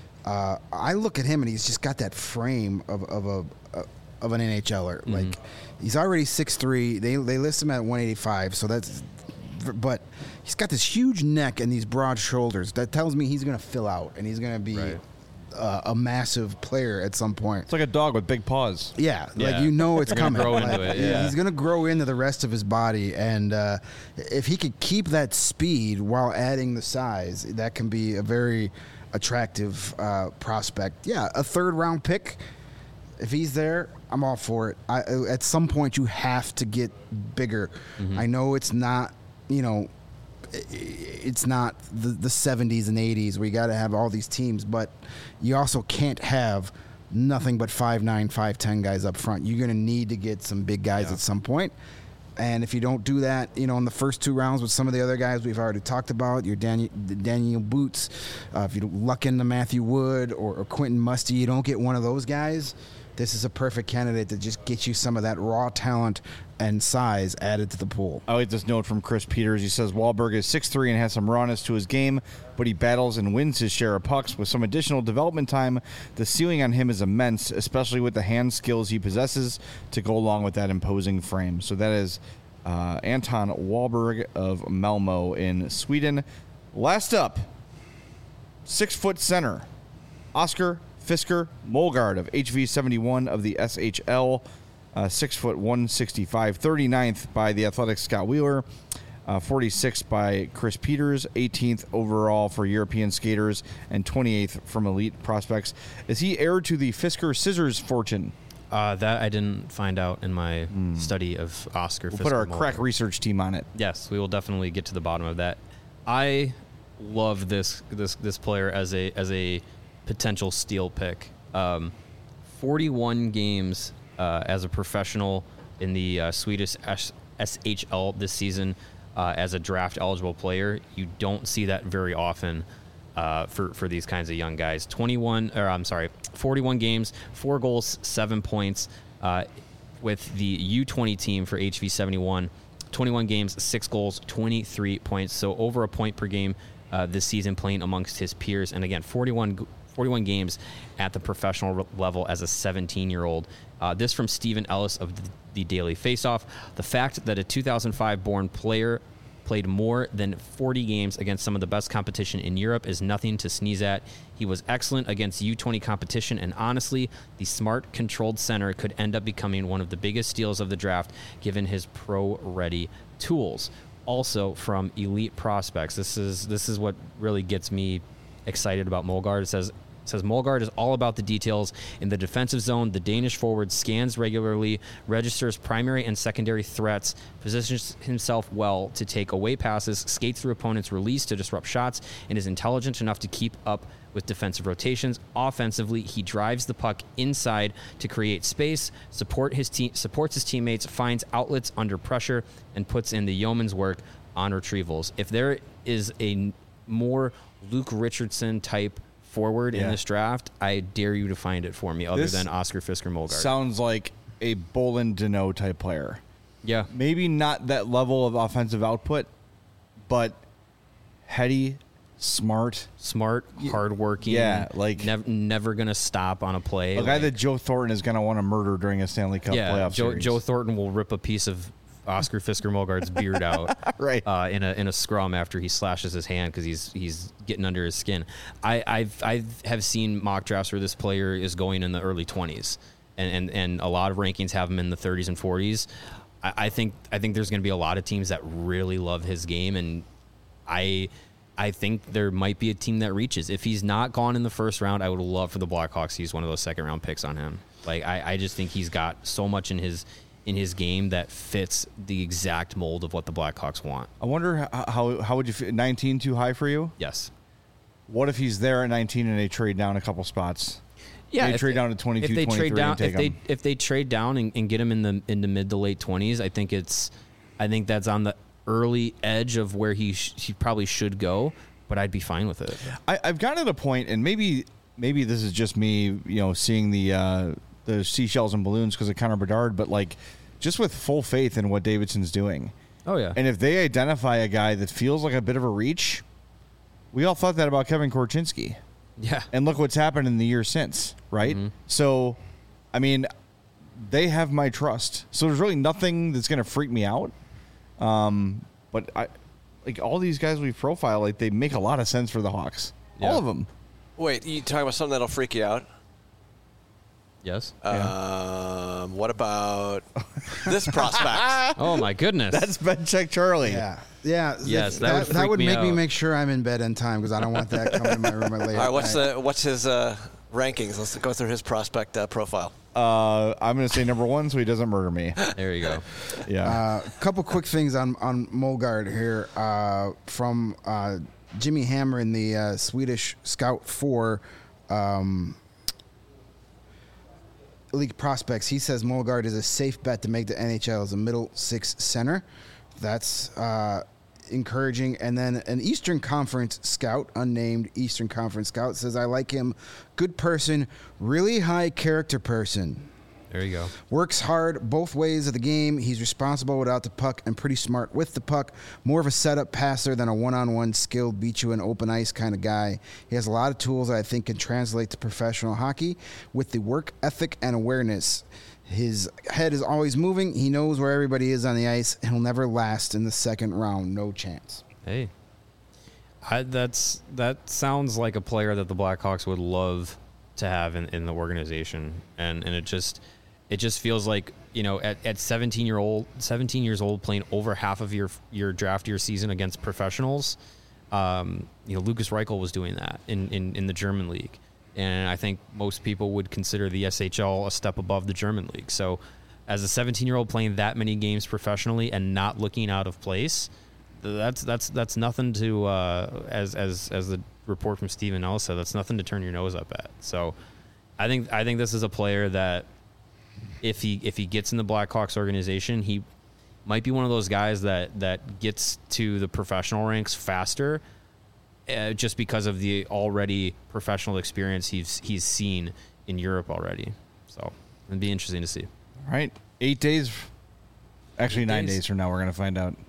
I look at him and he's just got that frame of an NHLer. Mm-hmm. Like, he's already 6'3". They list him at 185, so that's. But he's got this huge neck and these broad shoulders. That tells me he's going to fill out and he's going to be a massive player at some point. It's like a dog with big paws. Yeah. It's coming. Grow into it, yeah. He's going to grow into the rest of his body, and if he could keep that speed while adding the size, that can be a very attractive prospect. Yeah, a third-round pick. If he's there, I'm all for it. At some point, you have to get bigger. Mm-hmm. I know it's not, it's not the 70s and 80s where you got to have all these teams, but you also can't have nothing but 5'9", 5'10" guys up front. You're going to need to get some big guys at some point. And if you don't do that, in the first 2 rounds with some of the other guys we've already talked about, your Daniel Boots, if you luck into Matthew Wood or Quentin Musty, you don't get one of those guys, this is a perfect candidate to just get you some of that raw talent and size added to the pool. I like this note from Chris Peters. He says, Wahlberg is 6'3" and has some rawness to his game, but he battles and wins his share of pucks. With some additional development time, the ceiling on him is immense, especially with the hand skills he possesses to go along with that imposing frame. So that is Anton Wahlberg of Malmo in Sweden. Last up, 6-foot center, Oscar Fisker Molgaard of HV71 of the SHL, 6 foot 165, 39th by the Athletic Scott Wheeler, 46th by Chris Peters, 18th overall for European skaters, and 28th from Elite Prospects. Is he heir to the Fisker Scissors fortune? That I didn't find out in my study of Oscar. We'll Fisker put our Molgaard. crack research team on it. Yes, we will definitely get to the bottom of that. I love this player as a potential steal pick. 41 games as a professional in the Swedish SHL this season as a draft eligible player. You don't see that very often for these kinds of young guys. 41 games, 4 goals, 7 points with the U20 team for HV71. 21 games, 6 goals, 23 points. So over a point per game this season playing amongst his peers. And again, 41 games at the professional level as a 17-year-old. This from Stephen Ellis of the Daily Faceoff. The fact that a 2005-born player played more than 40 games against some of the best competition in Europe is nothing to sneeze at. He was excellent against U20 competition, and honestly, the smart, controlled center could end up becoming one of the biggest steals of the draft given his pro-ready tools. Also from Elite Prospects, this is what really gets me excited about Molgaard. It says Molgaard is all about the details in the defensive zone. The Danish forward scans regularly, registers primary and secondary threats, positions himself well to take away passes, skates through opponents' release to disrupt shots, and is intelligent enough to keep up with defensive rotations. Offensively, he drives the puck inside to create space, supports his teammates, finds outlets under pressure, and puts in the yeoman's work on retrievals. If there is a more Luke Richardson type forward in this draft, I dare you to find it for me other than Oscar Fisker Molgaard. Sounds like a Bolin Deneau type player. Yeah. Maybe not that level of offensive output, but heady, smart, hardworking. Yeah, like never gonna stop on a play. A guy that Joe Thornton is gonna want to murder during a Stanley Cup playoff series. Joe Thornton will rip a piece of Oscar Fisker Molgaard's beard out right in a scrum after he slashes his hand because he's getting under his skin. I have seen mock drafts where this player is going in the early 20s, and a lot of rankings have him in the 30s and 40s. I think there's going to be a lot of teams that really love his game, and I think there might be a team that reaches. If he's not gone in the first round, I would love for the Blackhawks to use one of those second round picks on him. Like I just think he's got so much in his game that fits the exact mold of what the Blackhawks want. I wonder how would you feel? 19 too high for you? Yes. What if he's there at 19 and they trade down a couple spots? Yeah, they trade down to 22, 23 and take him. If they trade down and get him in the mid to late 20s, I think that's on the early edge of where he probably should go, but I'd be fine with it. I've gotten to the point, and maybe this is just me, seeing the seashells and balloons because of Connor Bedard, but like just with full faith in what Davidson's doing. Oh yeah. And if they identify a guy that feels like a bit of a reach, we all thought that about Kevin Korchinski. Yeah. And look what's happened in the year since, right? Mm-hmm. So, I mean, they have my trust. So there's really nothing that's going to freak me out. But all these guys we profile, like they make a lot of sense for the Hawks. Yeah. All of them. Wait, you talking about something that'll freak you out? Yes. What about this prospect? Oh my goodness. That's Ben Check Charlie. Yeah. Yeah. Yes, that would make me out. make sure I'm in bed in time because I don't want that coming in my room late. All right, what's his rankings? Let's go through his prospect profile. I'm going to say number 1 so he doesn't murder me. There you go. Yeah. A couple quick things on Molgaard here from Jimmy Hammer in the Swedish Scout 4 League Prospects. He says Molgaard is a safe bet to make the NHL as a middle 6 center. That's encouraging. And then an Eastern Conference scout, unnamed Eastern Conference scout, says, I like him. Good person, really high character person. There you go. Works hard both ways of the game. He's responsible without the puck and pretty smart with the puck. More of a setup passer than a one-on-one skilled, beat you in open ice kind of guy. He has a lot of tools that I think can translate to professional hockey with the work ethic and awareness. His head is always moving. He knows where everybody is on the ice, and he'll never last in the second round. No chance. Hey, that sounds like a player that the Blackhawks would love to have in the organization, and it just feels like, you know, at 17 years old playing over half of your draft year season against professionals. You know, Lukas Reichel was doing that in the German league, and I think most people would consider the SHL a step above the German league. So, as a 17-year-old playing that many games professionally and not looking out of place, that's nothing to as the report from Stephen Ellis said, that's nothing to turn your nose up at. So, I think this is a player that if he gets in the Blackhawks organization, he might be one of those guys that gets to the professional ranks faster, just because of the already professional experience he's seen in Europe already. So it'd be interesting to see. All right, 8 days. Actually, 9 days from now, we're going to find out.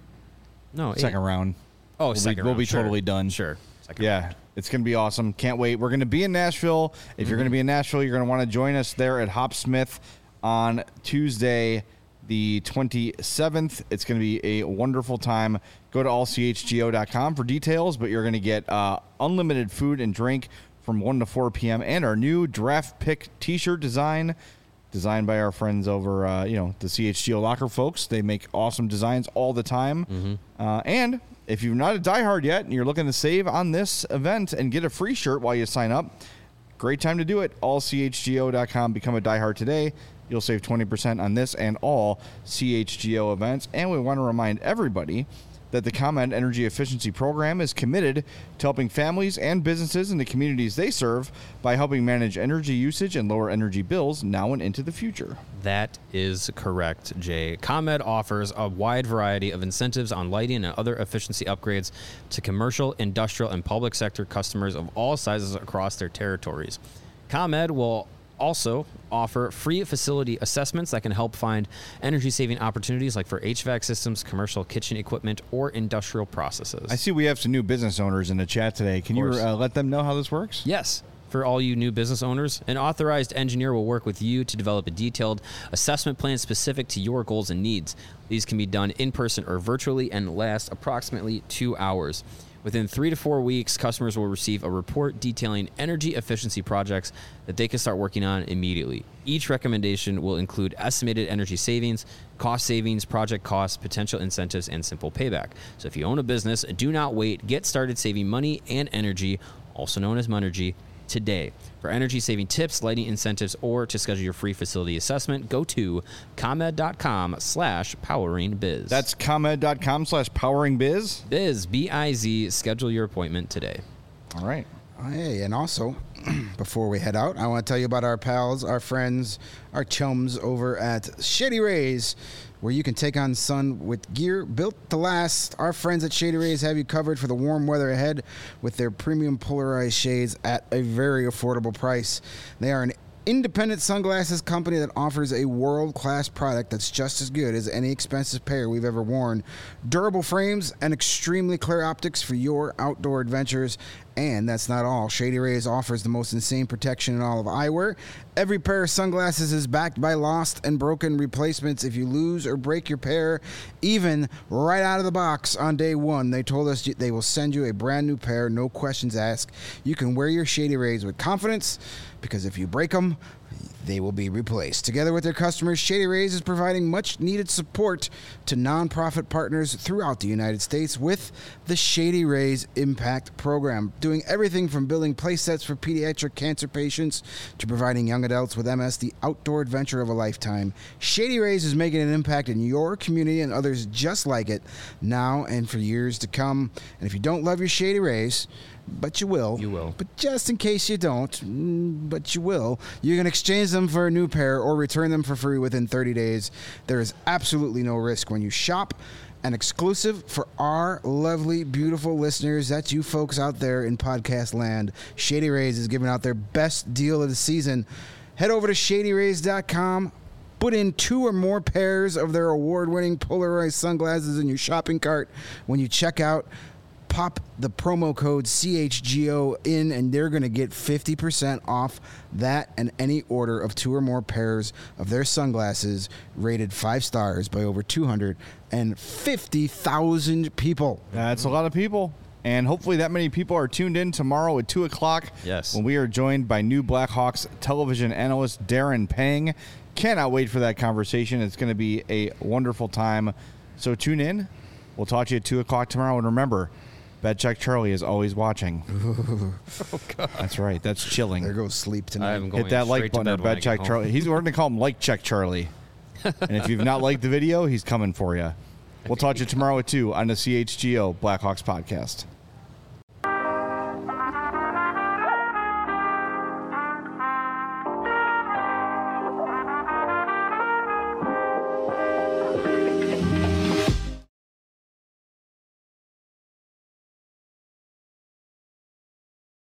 No, second round. Oh, second round. We'll be totally done. Sure. Yeah, it's going to be awesome. Can't wait. We're going to be in Nashville. If you're going to be in Nashville, you're going to want to join us there at Hopsmith on Tuesday, the 27th. It's going to be a wonderful time. Go to allchgo.com for details, but you're going to get unlimited food and drink from 1 to 4 p.m. and our new draft pick t-shirt designed by our friends over, the CHGO Locker folks. They make awesome designs all the time. And if you're not a diehard yet and you're looking to save on this event and get a free shirt while you sign up, great time to do it. Allchgo.com. Become a diehard today. You'll save 20% on this and all CHGO events. And we want to remind everybody that the ComEd Energy Efficiency Program is committed to helping families and businesses in the communities they serve by helping manage energy usage and lower energy bills now and into the future. That is correct, Jay. ComEd offers a wide variety of incentives on lighting and other efficiency upgrades to commercial, industrial, and public sector customers of all sizes across their territories. ComEd will also offer free facility assessments that can help find energy-saving opportunities like for HVAC systems, commercial kitchen equipment, or industrial processes. I see we have some new business owners in the chat today. Can you let them know how this works? Yes. For all you new business owners, an authorized engineer will work with you to develop a detailed assessment plan specific to your goals and needs. These can be done in person or virtually and last approximately 2 hours. Within 3 to 4 weeks, customers will receive a report detailing energy efficiency projects that they can start working on immediately. Each recommendation will include estimated energy savings, cost savings, project costs, potential incentives, and simple payback. So if you own a business, do not wait. Get started saving money and energy, also known as Monergy, today. For energy-saving tips, lighting incentives, or to schedule your free facility assessment, go to ComEd.com/poweringbiz. That's ComEd.com/poweringbiz? Biz, B-I-Z. Schedule your appointment today. All right. Hey, and also, before we head out, I want to tell you about our pals, our friends, our chums over at Shady Rays, where you can take on sun with gear built to last. Our friends at Shady Rays have you covered for the warm weather ahead with their premium polarized shades at a very affordable price. They are an independent sunglasses company that offers a world-class product that's just as good as any expensive pair we've ever worn. Durable frames and extremely clear optics for your outdoor adventures. And that's not all. Shady Rays offers the most insane protection in all of eyewear. Every pair of sunglasses is backed by lost and broken replacements. If you lose or break your pair, even right out of the box on day one, they told us they will send you a brand new pair, no questions asked. You can wear your Shady Rays with confidence, because if you break them, they will be replaced. Together with their customers, Shady Rays is providing much-needed support to nonprofit partners throughout the United States with the Shady Rays Impact Program, doing everything from building play sets for pediatric cancer patients to providing young adults with MS the outdoor adventure of a lifetime. Shady Rays is making an impact in your community and others just like it now and for years to come. And if you don't love your Shady Rays, but you will. You will. But just in case you don't, but you will, you can exchange them for a new pair or return them for free within 30 days. There is absolutely no risk when you shop. And exclusive for our lovely, beautiful listeners, that's you folks out there in podcast land, Shady Rays is giving out their best deal of the season. Head over to ShadyRays.com. Put in 2 or more pairs of their award-winning polarized sunglasses in your shopping cart. When you check out, pop the promo code CHGO in, and they're going to get 50% off that and any order of 2 or more pairs of their sunglasses rated 5 stars by over 250,000 people. That's a lot of people. And hopefully that many people are tuned in tomorrow at 2 o'clock. Yes. When we are joined by new Blackhawks television analyst Darren Pang. Cannot wait for that conversation. It's going to be a wonderful time. So tune in. We'll talk to you at 2 o'clock tomorrow. And remember, BetCheck Charlie is always watching. Oh, God. That's right. That's chilling. There goes sleep tonight. Hit that like button or BetCheck Charlie. We're going to call him Like Check Charlie. And if you've not liked the video, he's coming for you. We'll talk to you tomorrow at 2 on the CHGO Blackhawks podcast.